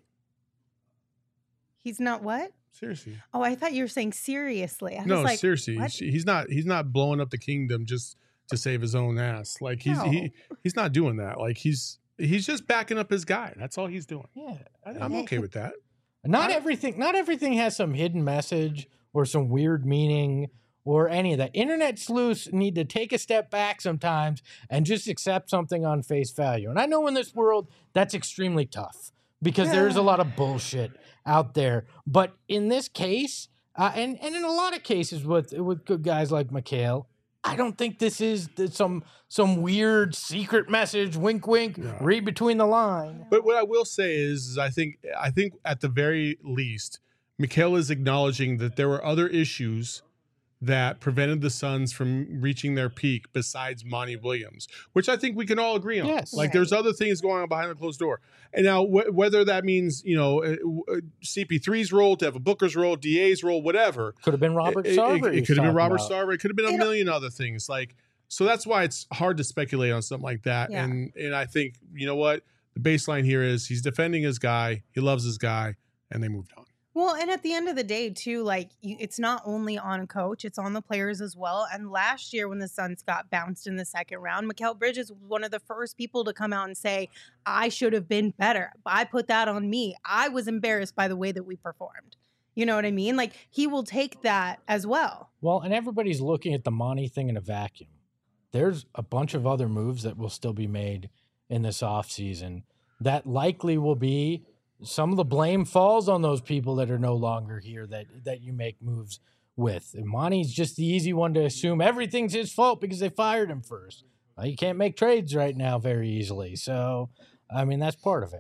He's not what? Seriously. Oh, I thought you were saying seriously. I No, was like, seriously. what? He's not he's not blowing up the kingdom just to save his own ass. Like he's he No. he's not doing that. Like he's he's just backing up his guy. That's all he's doing. Yeah. I, I'm okay with that. Not I- everything. Not everything has some hidden message or some weird meaning or any of that. Internet sleuths need to take a step back sometimes and just accept something on face value. And I know in this world that's extremely tough because there is a lot of bullshit out there. But in this case, uh, and and in a lot of cases with with good guys like Mikhail, I don't think this is th- some some weird secret message. Wink, wink. No. Read between the lines. But what I will say is, is I think I think at the very least, Mikhail is acknowledging that there were other issues that prevented the Suns from reaching their peak besides Monty Williams, which I think we can all agree on. Yes. Like there's other things going on behind the closed door. And now wh- whether that means, you know, uh, uh, C P three's role, Devin Booker's role, D A's role, whatever. Could have been Robert It- it- Sarver. It, he's could have been talking Robert about. Sarver. It could have been a It- million other things. Like, so that's why it's hard to speculate on something like that. Yeah. And and I think, you know what? The baseline here is he's defending his guy. He loves his guy, and they moved on. Well, and at the end of the day, too, like you, it's not only on coach, it's on the players as well. And last year, when the Suns got bounced in the second round, Mikal Bridges was one of the first people to come out and say, I should have been better. I put that on me. I was embarrassed by the way that we performed. You know what I mean? Like he will take that as well. Well, and everybody's looking at the Monty thing in a vacuum. There's a bunch of other moves that will still be made in this offseason that likely will be some of the blame falls on those people that are no longer here that that you make moves with. And Monty's just the easy one to assume everything's his fault because they fired him first. Well, you can't make trades right now very easily. So, I mean, that's part of it.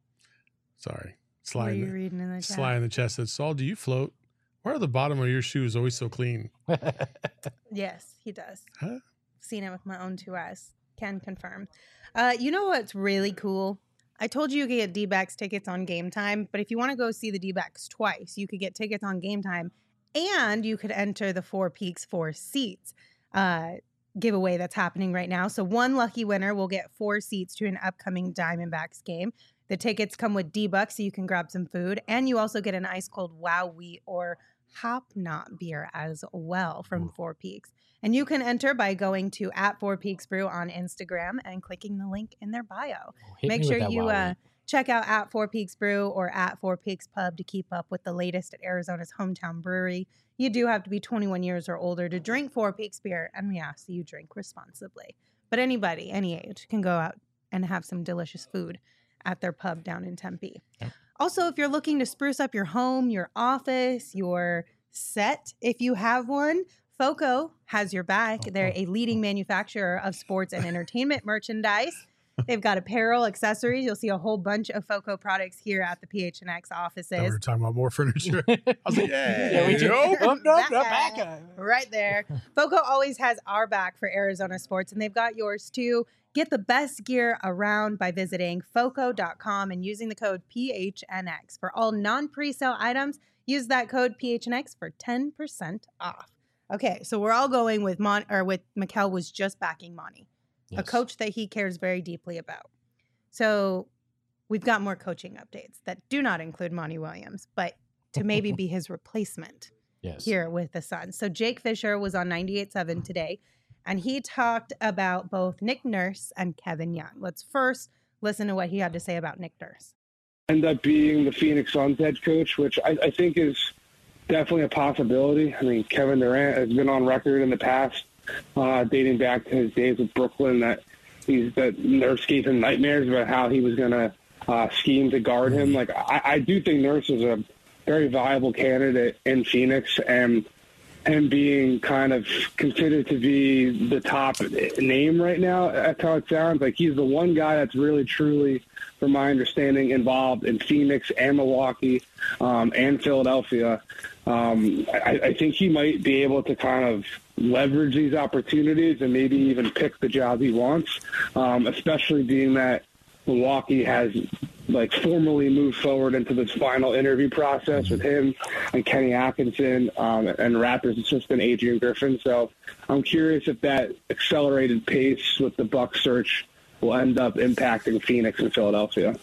Sorry. What Sly are in you the, reading in the chat? Sly in the chest said, Saul, do you float? Why are the bottom of your shoes always so clean? Yes, he does. Huh? Seen it with my own two eyes. Can confirm. Uh, you know what's really cool? I told you you could get D-backs tickets on Game Time, but if you want to go see the D-backs twice, you could get tickets on Game Time, and you could enter the Four Peaks Four Seats uh, giveaway that's happening right now. So one lucky winner will get four seats to an upcoming Diamondbacks game. The tickets come with D-Bucks, so you can grab some food, and you also get an ice-cold Wow Wheat or Hop Knot beer as well from Four Peaks. And you can enter by going to at Four Peaks Brew on Instagram and clicking the link in their bio. Hit Make me with sure that you Wow uh, Wheat. check out at Four Peaks Brew or at Four Peaks Pub to keep up with the latest at Arizona's hometown brewery. You do have to be twenty-one years or older to drink Four Peaks beer, and we ask that you drink responsibly. But anybody, any age, can go out and have some delicious food at their pub down in Tempe. Yep. Also, if you're looking to spruce up your home, your office, your set, if you have one, FOCO has your back. They're a leading manufacturer of sports and entertainment merchandise. They've got apparel, accessories. You'll see a whole bunch of FOCO products here at the P H N X Thought we offices. were talking about more furniture. I was like, yeah, Yeah, we do. nope. Oh, no, no, Back. back up. Right there. FOCO always has our back for Arizona sports, and they've got yours too. Get the best gear around by visiting foco dot com and using the code P H N X. For all non-presale items, use that code P H N X for ten percent off. Okay, so we're all going with Mon or with Mikel was just backing Monty, a Yes. coach that he cares very deeply about. So we've got more coaching updates that do not include Monty Williams, but to maybe be his replacement Yes. here with the Suns. So Jake Fisher was on ninety-eight point seven today, and he talked about both Nick Nurse and Kevin Young. Let's first listen to what he had to say about Nick Nurse. End up being the Phoenix Suns head coach, which I, I think is definitely a possibility. I mean, Kevin Durant has been on record in the past, uh, dating back to his days with Brooklyn, that he's that Nurse gave him nightmares about how he was going to uh, scheme to guard him. Like, I, I do think Nurse is a very viable candidate in Phoenix, and him being kind of considered to be the top name right now, that's how it sounds. Like, he's the one guy that's really, truly, from my understanding, involved in Phoenix and Milwaukee um, and Philadelphia. Um, I, I think he might be able to kind of leverage these opportunities and maybe even pick the job he wants, um, especially being that Milwaukee has like formally moved forward into this final interview process with him and Kenny Atkinson um, and Raptors assistant Adrian Griffin. So I'm curious if that accelerated pace with the Bucks search will end up impacting Phoenix and Philadelphia.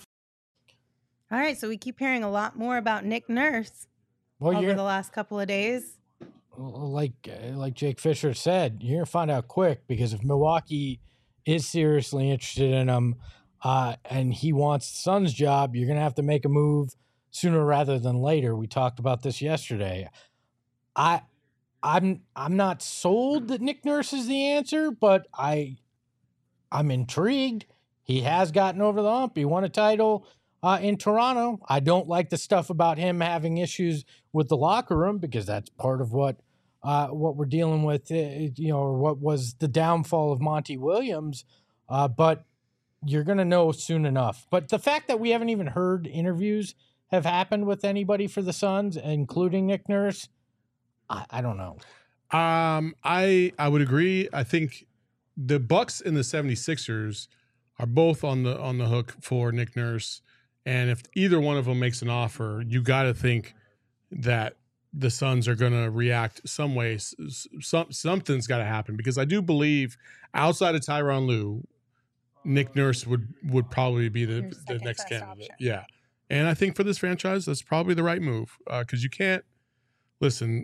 All right, so we keep hearing a lot more about Nick Nurse Well, over you're the last couple of days. like uh, like Jake Fisher said, you're gonna find out quick, because if Milwaukee is seriously interested in him, uh, and he wants the Suns' job, you're gonna have to make a move sooner rather than later. We talked about this yesterday. I, I'm I'm not sold that Nick Nurse is the answer, but I, I'm intrigued. He has gotten over the hump. He won a title uh, in Toronto. I don't like the stuff about him having issues with the locker room, because that's part of what uh, what we're dealing with, uh, you know, or what was the downfall of Monty Williams. Uh, but you're going to know soon enough. But the fact that we haven't even heard interviews have happened with anybody for the Suns, including Nick Nurse, I, I don't know. Um, I I would agree. I think the Bucks and the 76ers are both on the on the hook for Nick Nurse. And if either one of them makes an offer, you got to think that the Suns are going to react some way. Some, something's got to happen, because I do believe outside of Tyronn Lue, Nick Nurse would, would probably be the, Your the second next best candidate. option. Yeah. And I think for this franchise, that's probably the right move, because uh, you can't – listen,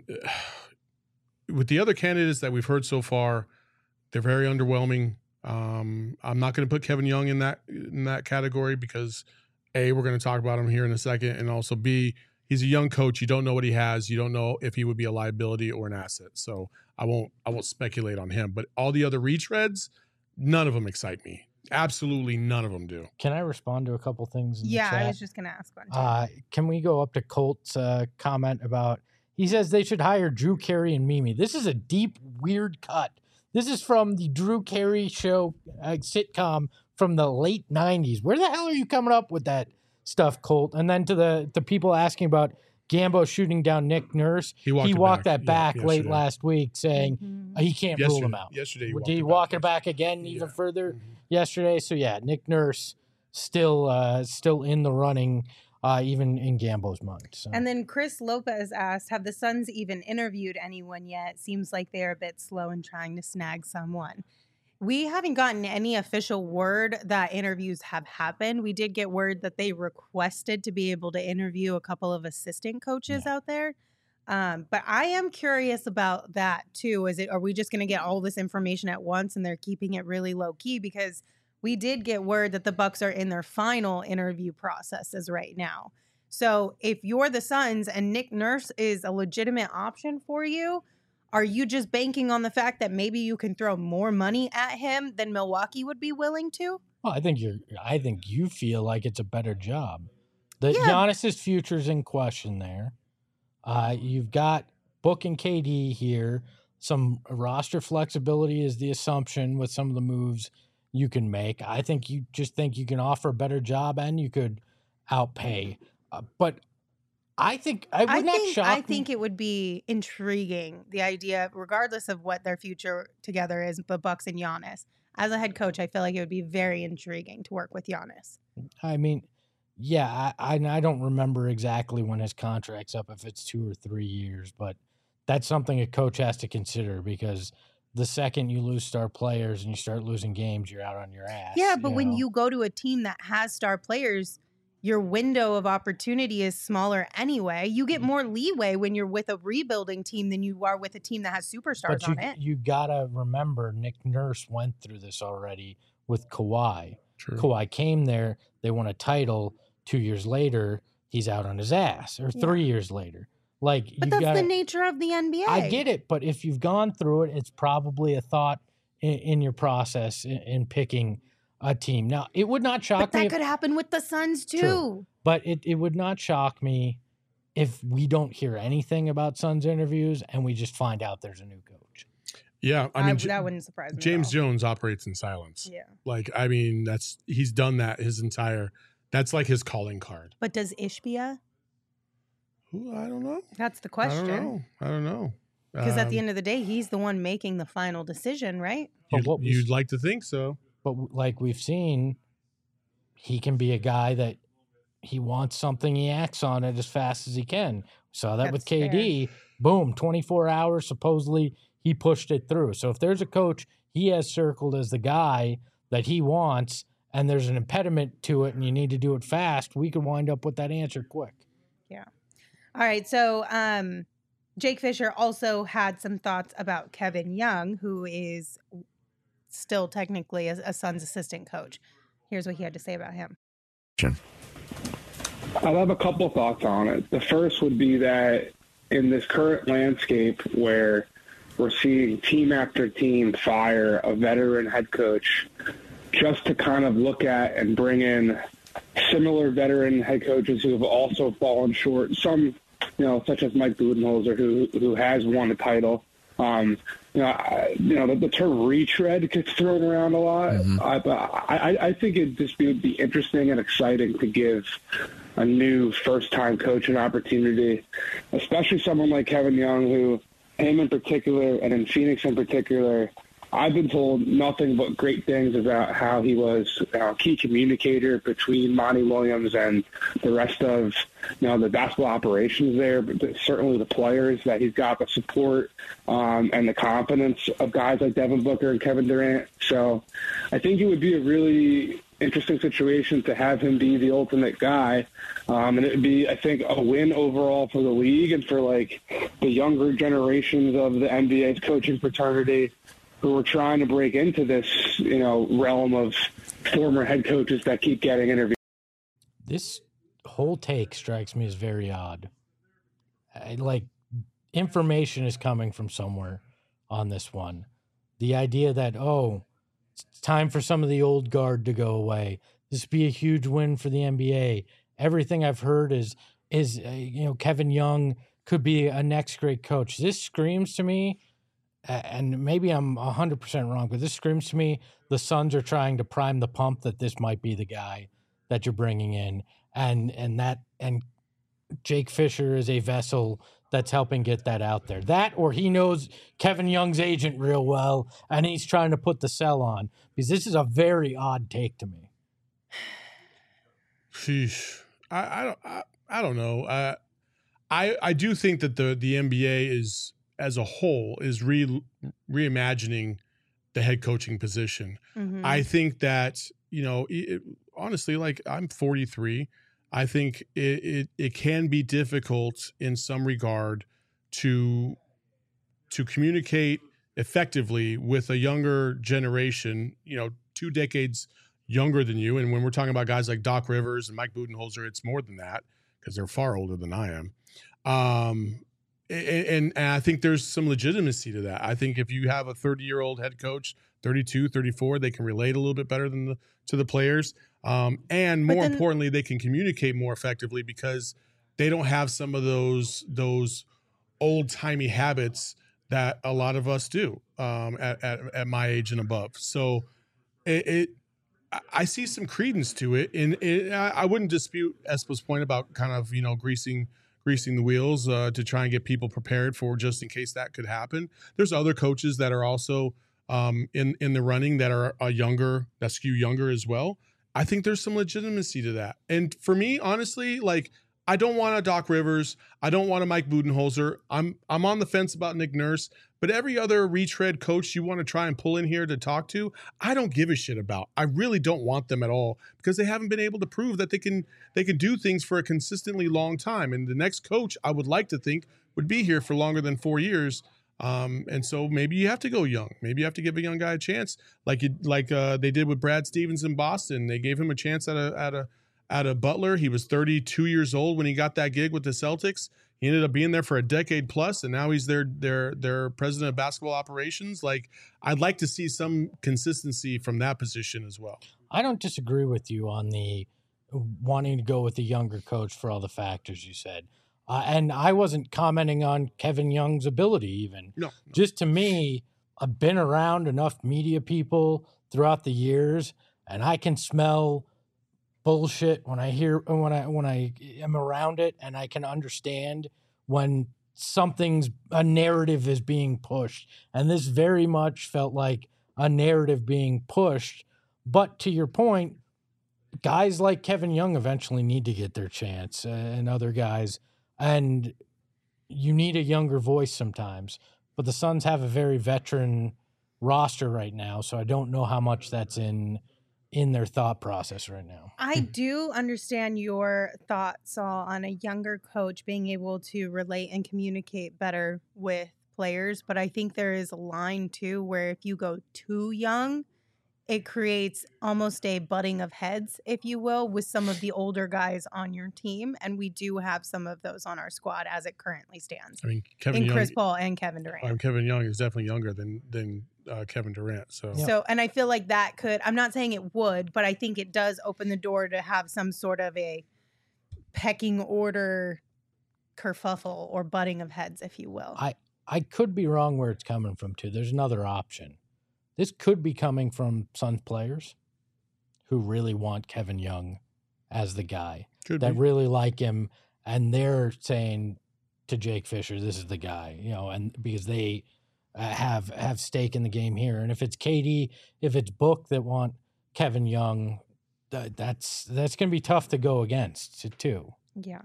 with the other candidates that we've heard so far, they're very underwhelming. Um, I'm not going to put Kevin Young in that in that category, because – A, we're going to talk about him here in a second, and also B, he's a young coach. You don't know what he has. You don't know if he would be a liability or an asset. So I won't I won't speculate on him. But all the other retreads, none of them excite me. Absolutely none of them do. Can I respond to a couple things in Yeah, the chat? I was just going to ask one. too. Uh, can we go up to Colt's uh, comment about, he says they should hire Drew Carey and Mimi. This is a deep, weird cut. This is from the Drew Carey show uh, sitcom from the late nineties. Where the hell are you coming up with that stuff, Colt? And then to the, the people asking about Gambo shooting down Nick Nurse, He walked, he it walked back. that back Yeah, late yesterday. last week, saying Mhm. uh, he can't rule Yesterday, him out. yesterday he Did walked he it walk back. it back again even Yeah. further Mhm. yesterday? So yeah, Nick Nurse still uh, still in the running, uh, even in Gambo's mind. So. And then Chris Lopez asked, have the Suns even interviewed anyone yet? Seems like they're a bit slow in trying to snag someone. We haven't gotten any official word that interviews have happened. We did get word that they requested to be able to interview a couple of assistant coaches out there. Um, but I am curious about that too. Is it, are we just going to get all this information at once and they're keeping it really low key? Because we did get word that the Bucks are in their final interview processes right now. So if you're the Suns and Nick Nurse is a legitimate option for you, are you just banking on the fact that maybe you can throw more money at him than Milwaukee would be willing to? Well, I think you're. I think you feel like it's a better job. The Yeah. Giannis's future's in question there. Uh, you've got Book and K D here. Some roster flexibility is the assumption with some of the moves you can make. I think you just think you can offer a better job and you could outpay. Uh, but I think I would I not think shock I me. think it would be intriguing, the idea, regardless of what their future together is, the Bucks and Giannis. As a head coach, I feel like it would be very intriguing to work with Giannis. I mean, yeah, I, I I don't remember exactly when his contract's up, if it's two or three years, but that's something a coach has to consider, because the second you lose star players and you start losing games, you're out on your ass. Yeah, but when know? you go to a team that has star players, your window of opportunity is smaller anyway. You get more leeway when you're with a rebuilding team than you are with a team that has superstars but you, on it. you gotta remember, Nick Nurse went through this already with Kawhi. True. Kawhi came there, they won a title. Two years later, he's out on his ass, or three Yeah. years later. Like, But you that's gotta, the nature of the N B A. I get it, but if you've gone through it, it's probably a thought in, in your process in, in picking a team. Now, it would not shock But that me, could happen with the Suns too. True. but it, it would not shock me if we don't hear anything about Suns interviews and we just find out there's a new coach. Yeah, I I, mean, J- that wouldn't surprise me. at James all. Jones operates in silence. Yeah. Like, I mean, that's he's done that his entire. That's like his calling card. But does Ishbia? Who I don't know. That's the I don't question. know. I don't know. Because at the Um, end of the day, he's the one making the final decision, right? But you'd, what we you'd like to think so. But w- like we've seen, he can be a guy that he wants something, he acts on it as fast as he can. Saw that with That's K D. Boom, twenty-four hours. Supposedly he pushed it through. So if there's a coach he has circled as the guy that he wants, and there's an impediment to it, and you need to do it fast, we could wind up with that answer quick. All right. So um, Jake Fisher also had some thoughts about Kevin Young, who is still technically a, a Suns assistant coach. Here's what he had to say about him. I have a couple thoughts on it. The first would be that in this current landscape where we're seeing team after team fire a veteran head coach, just to kind of look at and bring in similar veteran head coaches who have also fallen short, some, you know, such as Mike Budenholzer, who who has won a title. Um, you know, I, you know, the, the term retread gets thrown around a lot. Mhm. I, but I, I think it'd just be, would be interesting and exciting to give a new first-time coach an opportunity, especially someone like Kevin Young, who, him in particular, and in Phoenix in particular, I've been told nothing but great things about how he was a key communicator between Monty Williams and the rest of, you know, the basketball operations there, but certainly the players, that he's got the support um, and the confidence of guys like Devin Booker and Kevin Durant. So I think it would be a really interesting situation to have him be the ultimate guy. Um, and it would be, I think, a win overall for the league and for, like, the younger generations of the N B A's coaching fraternity, who are trying to break into this, you know, realm of former head coaches that keep getting interviewed. This whole take strikes me as very odd. I, like, information is coming from somewhere on this one. The idea that, oh, it's time for some of the old guard to go away. This would be a huge win for the N B A. Everything I've heard is, is uh, you know, Kevin Young could be a next great coach. This screams to me, and maybe I'm one hundred percent wrong, but this screams to me the Suns are trying to prime the pump that this might be the guy that you're bringing in. And and that and Jake Fisher is a vessel that's helping get that out there. That, or he knows Kevin Young's agent real well, and he's trying to put the sell on, because this is a very odd take to me. Sheesh. I, I don't. I, I don't know. Uh, I I do think that the the N B A is, as a whole, is re reimagining the head coaching position. Mm-hmm. I think that, you know, it, honestly, like, I'm forty-three. I think it, it it can be difficult in some regard to to communicate effectively with a younger generation, you know, two decades younger than you. And when we're talking about guys like Doc Rivers and Mike Budenholzer, it's more than that, because they're far older than I am. Um, and, and, and I think there's some legitimacy to that. I think if you have a thirty-year-old head coach, thirty-two, thirty-four, they can relate a little bit better than the to the players. Um, and But more then- importantly, they can communicate more effectively because they don't have some of those those old-timey habits that a lot of us do um, at, at, at my age and above. So it, it I see some credence to it, and it, I wouldn't dispute Espo's point about kind of, you know, greasing greasing the wheels uh, to try and get people prepared for just in case that could happen. There's other coaches that are also um, in in the running that are a younger, that skew younger as well. I think there's some legitimacy to that. And for me, honestly, like, I don't want a Doc Rivers. I don't want a Mike Budenholzer. I'm I'm on the fence about Nick Nurse. But every other retread coach you want to try and pull in here to talk to, I don't give a shit about. I really don't want them at all because they haven't been able to prove that they can they can do things for a consistently long time. And the next coach, I would like to think, would be here for longer than four years. Um, and so maybe you have to go young. Maybe you have to give a young guy a chance, like you, like uh, they did with Brad Stevens in Boston. They gave him a chance at a at a at a Butler. He was thirty-two years old when he got that gig with the Celtics. He ended up being there for a decade plus, and now he's their their their president of basketball operations. Like, I'd like to see some consistency from that position as well. I don't disagree with you on the wanting to go with a younger coach for all the factors you said. Uh, and I wasn't commenting on Kevin Young's ability even. No, no. Just to me, I've been around enough media people throughout the years, and I can smell bullshit when I hear when I when I am around it, and I can understand when something's a narrative is being pushed. And this very much felt like a narrative being pushed. But to your point, guys like Kevin Young eventually need to get their chance, uh, and other guys, and you need a younger voice sometimes. But the Suns have a very veteran roster right now, so I don't know how much that's in in their thought process right now. I do understand your thoughts, Saul, on a younger coach being able to relate and communicate better with players, but I think there is a line too where if you go too young, it creates almost a butting of heads, if you will, with some of the older guys on your team. And we do have some of those on our squad as it currently stands. I mean, Kevin in Young, Chris Paul and Kevin Durant. Um, Kevin Young is definitely younger than than uh, Kevin Durant. So, Yeah. So, and I feel like that could, I'm not saying it would, but I think it does open the door to have some sort of a pecking order kerfuffle or butting of heads, if you will. I, I could be wrong where it's coming from, too. There's another option. This could be coming from Suns players who really want Kevin Young as the guy, could that be. really like him, and they're saying to Jake Fisher, this is the guy, you know, and because they uh, have have stake in the game here. And if it's K D, if it's Book that want Kevin Young, that, that's that's going to be tough to go against, too. Yeah.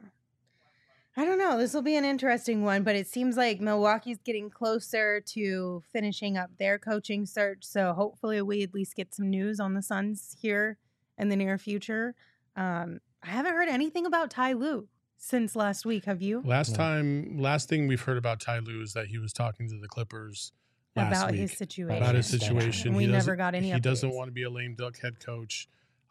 I don't know. This will be an interesting one, but it seems like Milwaukee's getting closer to finishing up their coaching search. So hopefully we at least get some news on the Suns here in the near future. Um, I haven't heard anything about Ty Lue since last week. Have you? Last Yeah. time, last thing we've heard about Ty Lue is that he was talking to the Clippers last About week his situation. about his Yeah. situation. And we He never doesn't- got any He doesn't updates. want to be a lame duck head coach.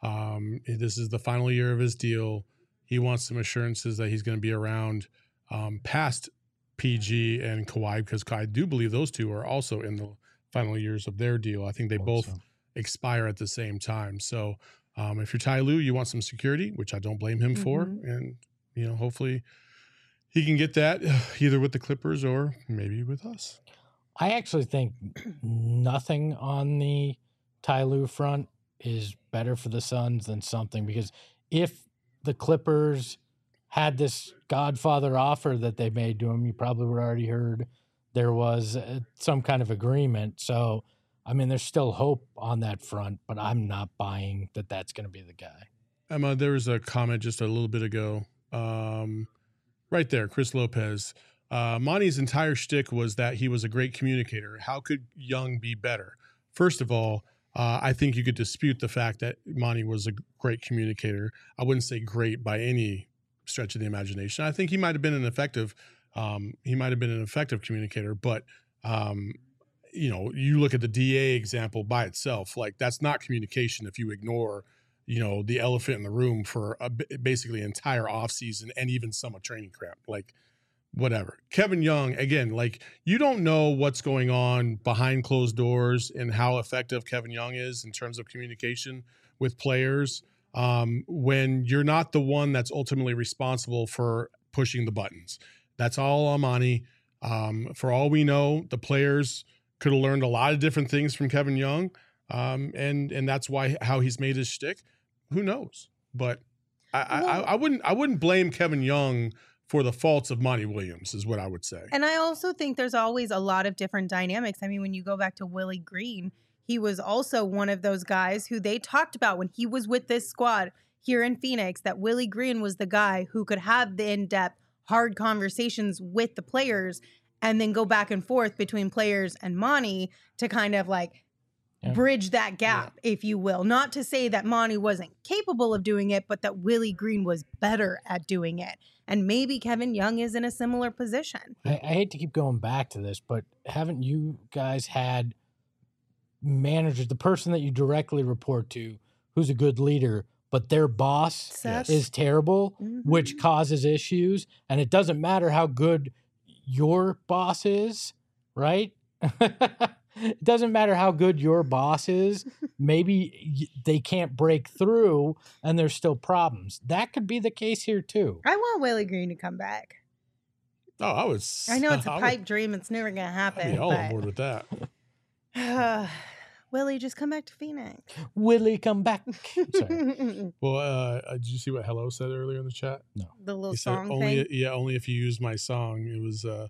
Um, this is the final year of his deal. He wants some assurances that he's going to be around um, past P G and Kawhi, because I do believe those two are also in the final years of their deal. I think they both So, expire at the same time. So um, if you're Ty Lue, you want some security, which I don't blame him for. Mhm. And, you know, hopefully he can get that either with the Clippers or maybe with us. I actually think nothing on the Ty Lue front is better for the Suns than something, because if the Clippers had this Godfather offer that they made to him, you probably would have already heard there was uh, some kind of agreement. So, I mean, there's still hope on that front, but I'm not buying that that's going to be the guy. Emma, there was a comment just a little bit ago. Um, right there, Chris Lopez. Uh, Monty's entire shtick was that he was a great communicator. How could Young be better? First of all, uh, I think you could dispute the fact that Monty was a great communicator. I wouldn't say great by any stretch of the imagination. I think he might have been an effective, um, he might have been an effective communicator, but um, you know, you look at the D A example by itself, like that's not communication if you ignore, you know, the elephant in the room for a, basically entire offseason and even some of training camp, like whatever. Kevin Young, again, like you don't know what's going on behind closed doors and how effective Kevin Young is in terms of communication with players um, when you're not the one that's ultimately responsible for pushing the buttons. That's all on Monty. Um, for all we know, the players could have learned a lot of different things from Kevin Young. um, and and that's why how he's made his shtick. Who knows? But I, I, Well- I, I wouldn't I wouldn't blame Kevin Young for the faults of Monty Williams, is what I would say. And I also think there's always a lot of different dynamics. I mean, when you go back to Willie Green, he was also one of those guys who they talked about when he was with this squad here in Phoenix, that Willie Green was the guy who could have the in-depth, hard conversations with the players and then go back and forth between players and Monty to kind of like Yeah. bridge that gap, if you will. Not to say that Monty wasn't capable of doing it, but that Willie Green was better at doing it. And maybe Kevin Young is in a similar position. I, I hate to keep going back to this, but haven't you guys had managers, the person that you directly report to, who's a good leader, but their boss Seth? is terrible, Mhm. which causes issues, and it doesn't matter how good your boss is, right? It doesn't matter how good your boss is. Maybe y- they can't break through, and there's still problems. That could be the case here too. I want Willie Green to come back. Oh, I was. I know it's a I would- pipe dream. It's never going to I'd happen. be all on but- board with that. Willie, just come back to Phoenix. Willie, come back. Sorry. the Well, uh, uh, did you see what Hello said earlier in the chat? little He said song only, thing. yeah, only if you use my song. It was uh,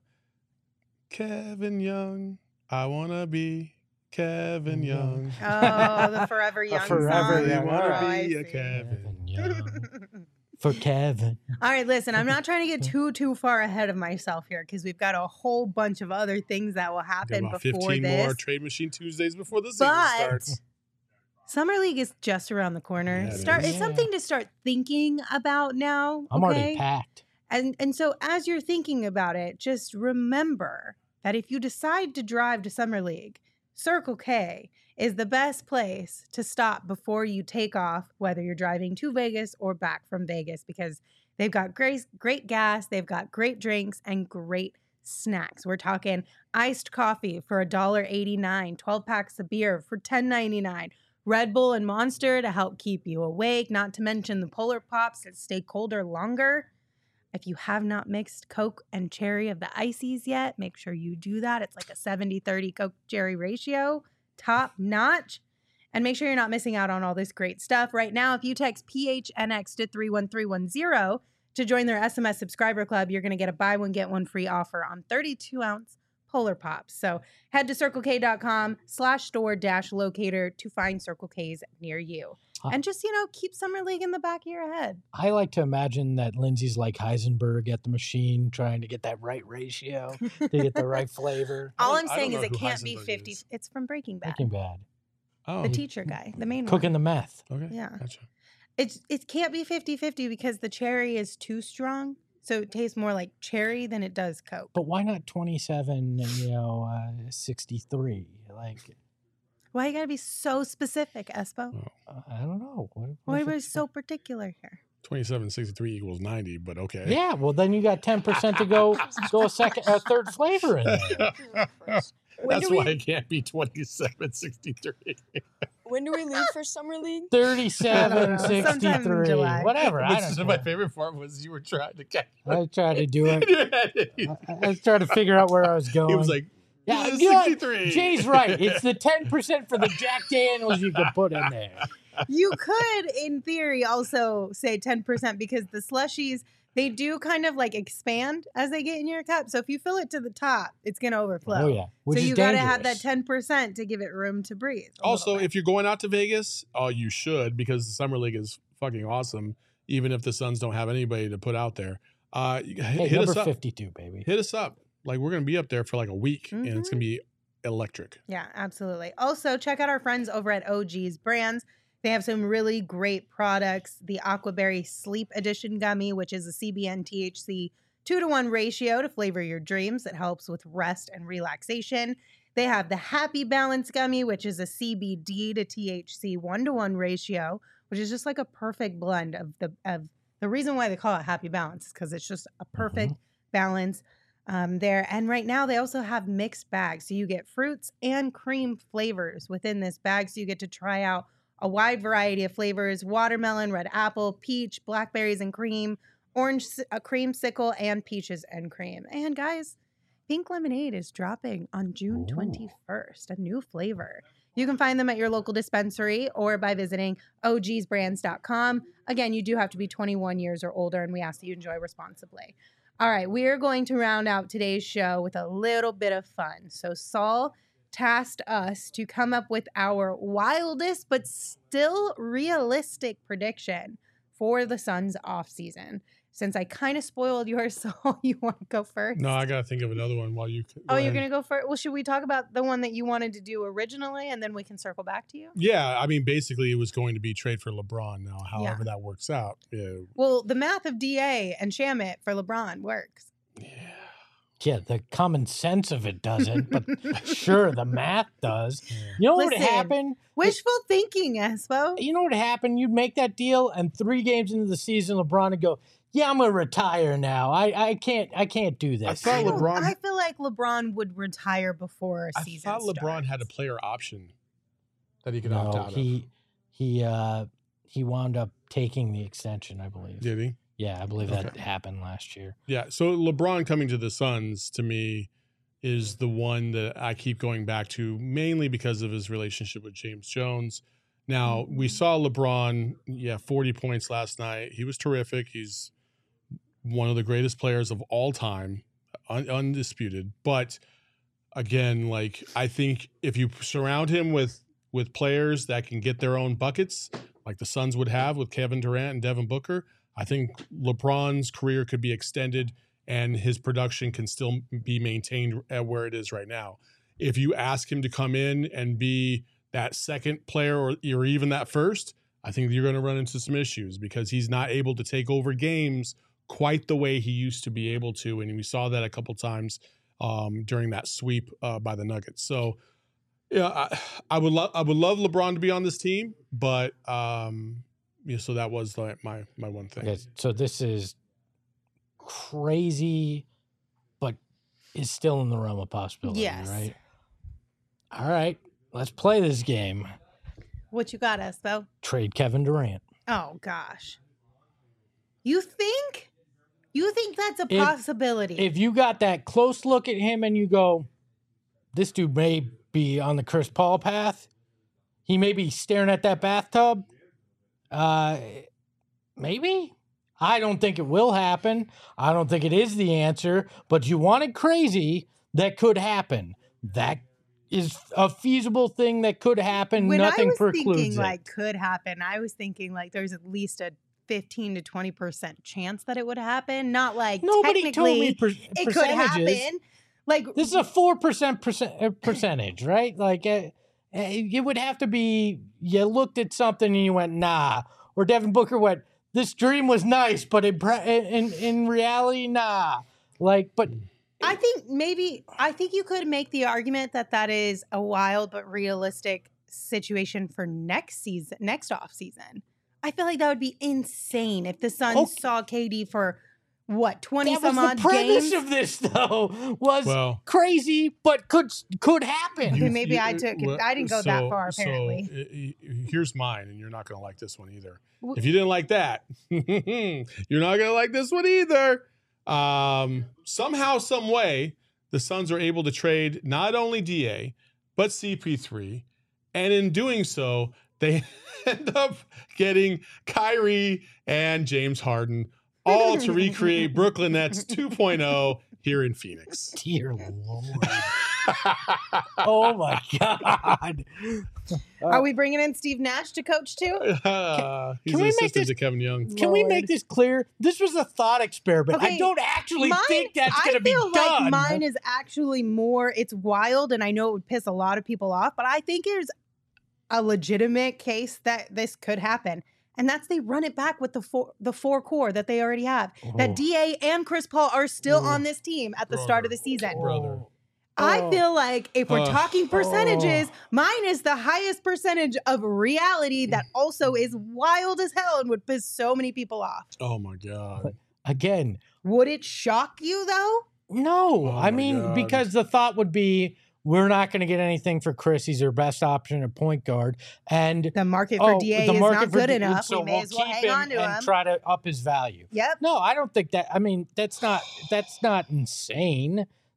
Kevin Young. I wanna be Kevin Young. Oh, the Forever Young Forever song. Young. Oh, Wanna I be a see. Kevin. Young. For Kevin. All right, listen, I'm not trying to get too, too far ahead of myself here because we've got a whole bunch of other things that will Got happen about before fifteen this. more Trade Machine Tuesdays before the season But starts. Summer League is just around the corner. Yeah, it Start is. it's something to start thinking about now. I'm okay? already packed. And and so as you're thinking about it, just remember that if you decide to drive to Summer League, Circle K is the best place to stop before you take off, whether you're driving to Vegas or back from Vegas, because they've got great great gas, they've got great drinks and great snacks. We're talking iced coffee for one dollar and eighty-nine cents, twelve packs of beer for ten ninety-nine, Red Bull and Monster to help keep you awake, not to mention the Polar Pops that stay colder longer. If you have not mixed Coke and cherry of the ices yet, make sure you do that. It's like a seventy thirty Coke cherry ratio, top notch. And make sure you're not missing out on all this great stuff. Right now, if you text P H N X to three one three one zero to join their S M S subscriber club, you're going to get a buy one, get one free offer on thirty-two ounce Polar Pops. So head to circlek.com slash store dash locator to find Circle K's near you. Huh. And just, you know, keep Summer League in the back of your head. I like to imagine that Lindsay's like Heisenberg at the machine, trying to get that right ratio, to get the right flavor. All I I'm don't saying is know it who can't be Heisenberg fifty. is. It's from Breaking Bad. Breaking Bad. Oh, The teacher guy, the main Cooking one. the meth. okay. Yeah. Gotcha. It's it can't be fifty-fifty because the cherry is too strong. So it tastes more like cherry than it does Coke. But why not twenty-seven, you know, uh, sixty-three? Like, Why you gotta be so specific, Espo? uh, I don't know. What, what Why if are we it's- so particular here? twenty-seven sixty-three equals ninety, but okay. Yeah, well, then you got ten percent to go go a second, a third flavor in there. When That's do why we it can't be twenty-seven sixty-three. when do we leave for summer league? thirty-seven Sometime in sixty-three. July. Whatever. I Which don't is care. my favorite part was you were trying to catch. I tried to do it. he I, I was trying to figure out where I was going. was like, yeah, "Yeah, you know what? sixty-three. Jay's right. It's the ten percent for the Jack Daniels you could put in there. You could, in theory, also say ten percent because the slushies, they do kind of like expand as they get in your cup. So if you fill it to the top, it's going to overflow. Oh, yeah. Which so is you got to have that dangerous. ten percent to give it room to breathe. a little Also, bit. if you're going out to Vegas, oh, you should because the summer league is fucking awesome. Even if the Suns don't have anybody to put out there, uh, you- hit, Hey, hit number us up. fifty-two, baby. Hit us up. Like we're gonna be up there for like a week, and it's Mhm. gonna be electric. Yeah, absolutely. Also, check out our friends over at O G's Brands. They have some really great products. The Aquaberry Sleep Edition gummy, which is a C B N T H C two to one ratio to flavor your dreams. It helps with rest and relaxation. They have the Happy Balance gummy, which is a C B D to T H C one to one ratio, which is just like a perfect blend of the of the reason why they call it Happy Balance is because it's just a perfect balance um, there. And right now they also have mixed bags. So you get fruits and cream flavors within this bag. So you get to try out a wide variety of flavors: watermelon, red apple, peach, blackberries and cream, orange, uh, creamsicle, and peaches and cream. And guys, Pink lemonade is dropping on June Ooh. twenty-first, a new flavor. You can find them at your local dispensary or by visiting o gs brands dot com. Again, you do have to be twenty-one years or older, and we ask that you enjoy responsibly. All right, we are going to round out today's show with a little bit of fun. So Saul tasked us to come up with our wildest but still realistic prediction for the Suns offseason. Since I kind of spoiled yours, Saul, you want to go first? No, I got to think of another one while you. Go Oh, you're ahead. going to go first? Well, should we talk about the one that you wanted to do originally, and then we can circle back to you? Yeah, I mean, basically, it was going to be trade for LeBron. Now, however Yeah. that works out, yeah, Well, the math of D A and Shamit for LeBron works. yeah. Yeah, the common sense of it doesn't, but sure, the math does. You know what would Listen, happen? Wishful thinking, Espo. You know what would happen? You'd make that deal, and three games into the season, LeBron would go, "Yeah, I'm gonna retire now. I, I can't I can't do this." I thought I, don't- LeBron- I feel like LeBron would retire before I season thought LeBron starts. had a player option that he could opt no, out he he uh he wound up taking the extension, I believe. of. Did he? Yeah, I believe that Okay. happened last year. Yeah. So LeBron coming to the Suns to me is the one that I keep going back to, mainly because of his relationship with James Jones. Now, we saw LeBron, yeah, forty points last night. He was terrific. He's one of the greatest players of all time, un- undisputed. But again, like, I think if you surround him with with players that can get their own buckets, like the Suns would have with Kevin Durant and Devin Booker, I think LeBron's career could be extended and his production can still be maintained at where it is right now. If you ask him to come in and be that second player or, or even that first, I think you're going to run into some issues because he's not able to take over games quite the way he used to be able to. And we saw that a couple times um, during that sweep uh, by the Nuggets. So, yeah, I, I would love I would love LeBron to be on this team, but um, yeah, so that was like my my one thing. Okay, so this is crazy, but is still in the realm of possibility, Yes. right? All right, let's play this game. What you got, Espo? Trade Kevin Durant. Oh, gosh. You think? You think that's a If- possibility? If you got that close look at him and you go, this dude may be on the Chris Paul path, he may be staring at that bathtub, uh, maybe? I don't think it will happen. I don't think it is the answer, but you wanted crazy, that could happen. That is a feasible thing that could happen. when Nothing I was precludes thinking it. like could happen, I was thinking like there's at least a fifteen to twenty percent chance that it would happen. Not like Nobody told technically me per- it could percentages. happen. Like This is a four percent percent percentage, right? Like uh, uh, it would have to be you looked at something and you went nah, or Devin Booker went, this dream was nice, but in pre- in in reality, nah. Like, but I think maybe I think you could make the argument that that is a wild but realistic situation for next season, next off season. I feel like that would be insane if the Suns Okay. saw K D for what twenty that was some the odd premise games. of this, though, was Well, crazy, but could could happen. Okay, maybe I took it- well, I didn't go that so- far, so, apparently. uh, uh, here's mine, and you're not going to like this one either. W- If you didn't like that, you're not going to like this one either. Um, somehow, some way, the Suns are able to trade not only D A but C P three, and in doing so, they end up getting Kyrie and James Harden, all to recreate Brooklyn Nets two point oh here in Phoenix. Dear Lord. Oh my God. Are we bringing in Steve Nash to coach too? Uh, he's can an we make assistant this- to Kevin Young. Can we Lord. make this clear? This was a thought experiment. I Okay, don't actually Mine- think that's I going to be feel done. like mine is actually more. It's wild, and I know it would piss a lot of people off, but I think there's a legitimate case that this could happen, and that's they run it back with the four the four core that they already have. Oh. That D A and Chris Paul are still Oh. on this team at the start of the Brother. season. Brother. I Oh. feel like if we're Oh. talking percentages, mine is the highest percentage of reality that also is wild as hell and would piss so many people off. Oh my God. Again, Would it shock you though? no. Oh I my mean, God. because the thought would be we're not going to get anything for Chris. He's our best option at point guard. And The market for oh, D A the is market not for good D- enough. So we may we'll as well keep hang him on to and him. try to up his value. Yep. No, I don't think that. I mean, that's not that's not insane.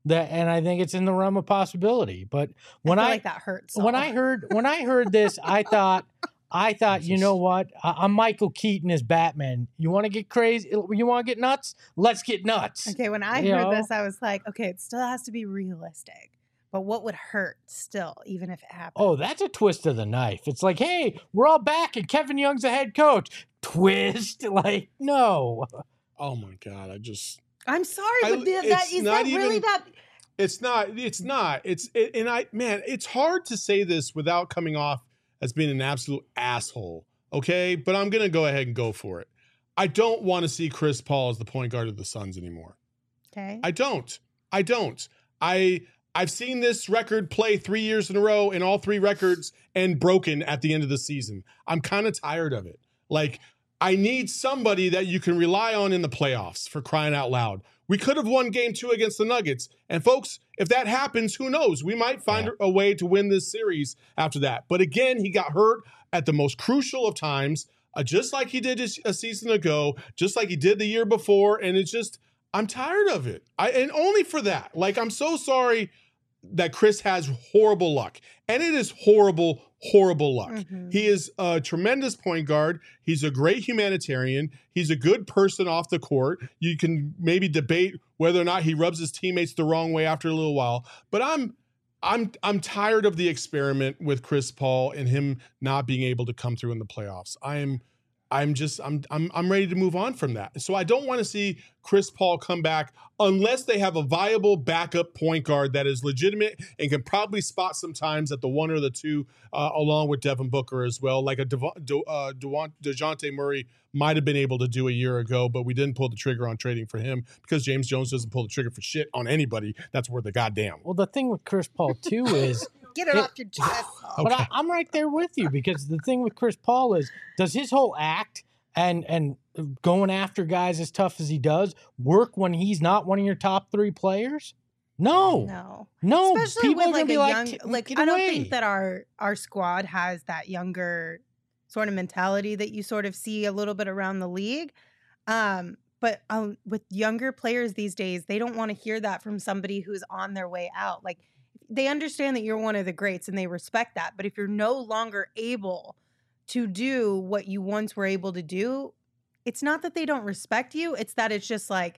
That, and I think it's in the realm of possibility. But when I feel I, like that hurts. when all. I heard when I heard this, I thought I thought you know what? I, I'm Michael Keaton as Batman. You want to get crazy? You want to get nuts? Let's get nuts. Okay, when I You heard know? this, I was like, okay, it still has to be realistic. But what would hurt still, even if it happened? Oh, that's a twist of the knife. It's like, hey, we're all back and Kevin Young's the head coach. Twist, like no. Oh my God, I just. I'm sorry, I- but th- that it's is not that really even- that? It's not. It's not. It's it, and I man, it's hard to say this without coming off as being an absolute asshole. Okay, but I'm gonna go ahead and go for it. I don't want to see Chris Paul as the point guard of the Suns anymore. Okay. I don't. I don't. I I've seen this record play three years in a row and all three records and broken at the end of the season. I'm kind of tired of it. Like, I need somebody that you can rely on in the playoffs, for crying out loud. We could have won game two against the Nuggets. And folks, if that happens, who knows? We might find Yeah. a way to win this series after that. But again, he got hurt at the most crucial of times, uh, just like he did a, a season ago, just like he did the year before. And it's just, I'm tired of it. I and only for that. Like, I'm so sorry that Chris has horrible luck. And it is horrible, horrible luck. Mhm. He is a tremendous point guard. He's a great humanitarian. He's a good person off the court. You can maybe debate whether or not he rubs his teammates the wrong way after a little while. But I'm I'm I'm tired of the experiment with Chris Paul and him not being able to come through in the playoffs. I'm I'm just I'm I'm I'm ready to move on from that. So I don't want to see Chris Paul come back unless they have a viable backup point guard that is legitimate and can probably spot sometimes at the one or the two, uh, along with Devin Booker as well, like a Devo- De- uh, Dewan- DeJounte Murray might have been able to do a year ago, but we didn't pull the trigger on trading for him because James Jones doesn't pull the trigger for shit on anybody. That's worth a goddamn. Well, the thing with Chris Paul too is, Get it It- off your chest. but I, I'm right there with you because the thing with Chris Paul is, does his whole act and and going after guys as tough as he does work when he's not one of your top three players? No, no, No. Especially people with are gonna like a be young, like, like "Get I don't away." think that our our squad has that younger sort of mentality that you sort of see a little bit around the league. Um, but um, with younger players these days, they don't want to hear that from somebody who's on their way out. Like they understand that you're one of the greats and they respect that. But if you're no longer able to do what you once were able to do, it's not that they don't respect you. It's that it's just like,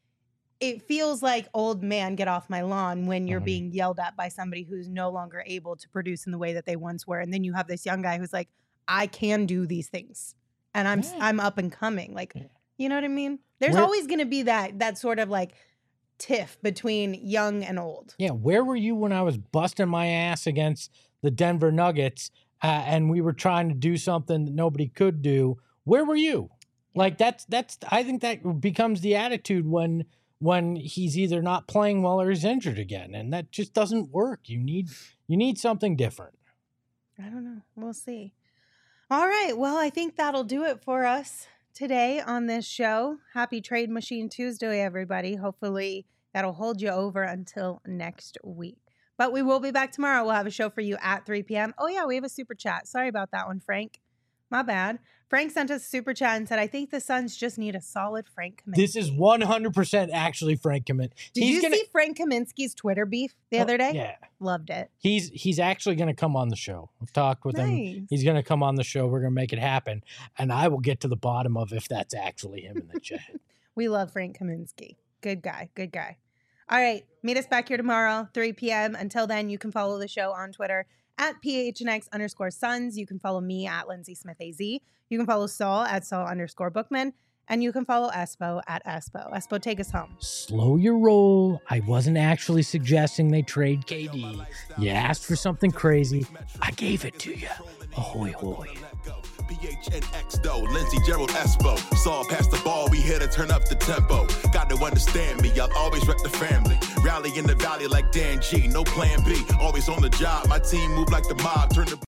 it feels like old man get off my lawn when you're Mhm. being yelled at by somebody who's no longer able to produce in the way that they once were. And then you have this young guy who's like, I can do these things and I'm, Yeah. I'm up and coming. Like, Yeah. you know what I mean? There's Where- always going to be that, that sort of like tiff between young and old. Yeah, where were you when I was busting my ass against the Denver Nuggets uh, and we were trying to do something that nobody could do? Where were you? Like that's that's I think that becomes the attitude when when he's either not playing well or he's injured again, and that just doesn't work. You need you need something different. I don't know. We'll see. All right. Well, I think that'll do it for us today on this show. Happy Trade Machine Tuesday, everybody. Hopefully that'll hold you over until next week. But we will be back tomorrow. We'll have a show for you at three p.m. Oh, yeah, we have a super chat. Sorry about that one, Frank. My bad. Frank sent us a super chat and said, I think the Suns just need a solid Frank Kaminsky. This is one hundred percent actually Frank Kaminsky. Did he's you gonna, see Frank Kaminsky's Twitter beef the Oh, other day? Yeah. Loved it. He's he's actually going to come on the show. I've talked with him. Nice. He's going to come on the show. We're going to make it happen, and I will get to the bottom of if that's actually him in the chat. We love Frank Kaminsky. Good guy. Good guy. All right. Meet us back here tomorrow, three p.m. Until then, you can follow the show on Twitter at PHNX underscore Suns. You can follow me at Lindsay Smith A Z. You can follow Saul at Saul underscore Bookman. And you can follow Espo at Espo. Espo, take us home. Slow your roll. I wasn't actually suggesting they trade K D. You asked for something crazy. I gave it to you. Ahoy, hoy. P H N X though, Lindsey Gerald Espo. Saw past the ball, we here to turn up the tempo. Got to understand me, I'll always rep the family. Rally in the valley like Dan G, no plan B. Always on the job, my team move like the mob. Turn the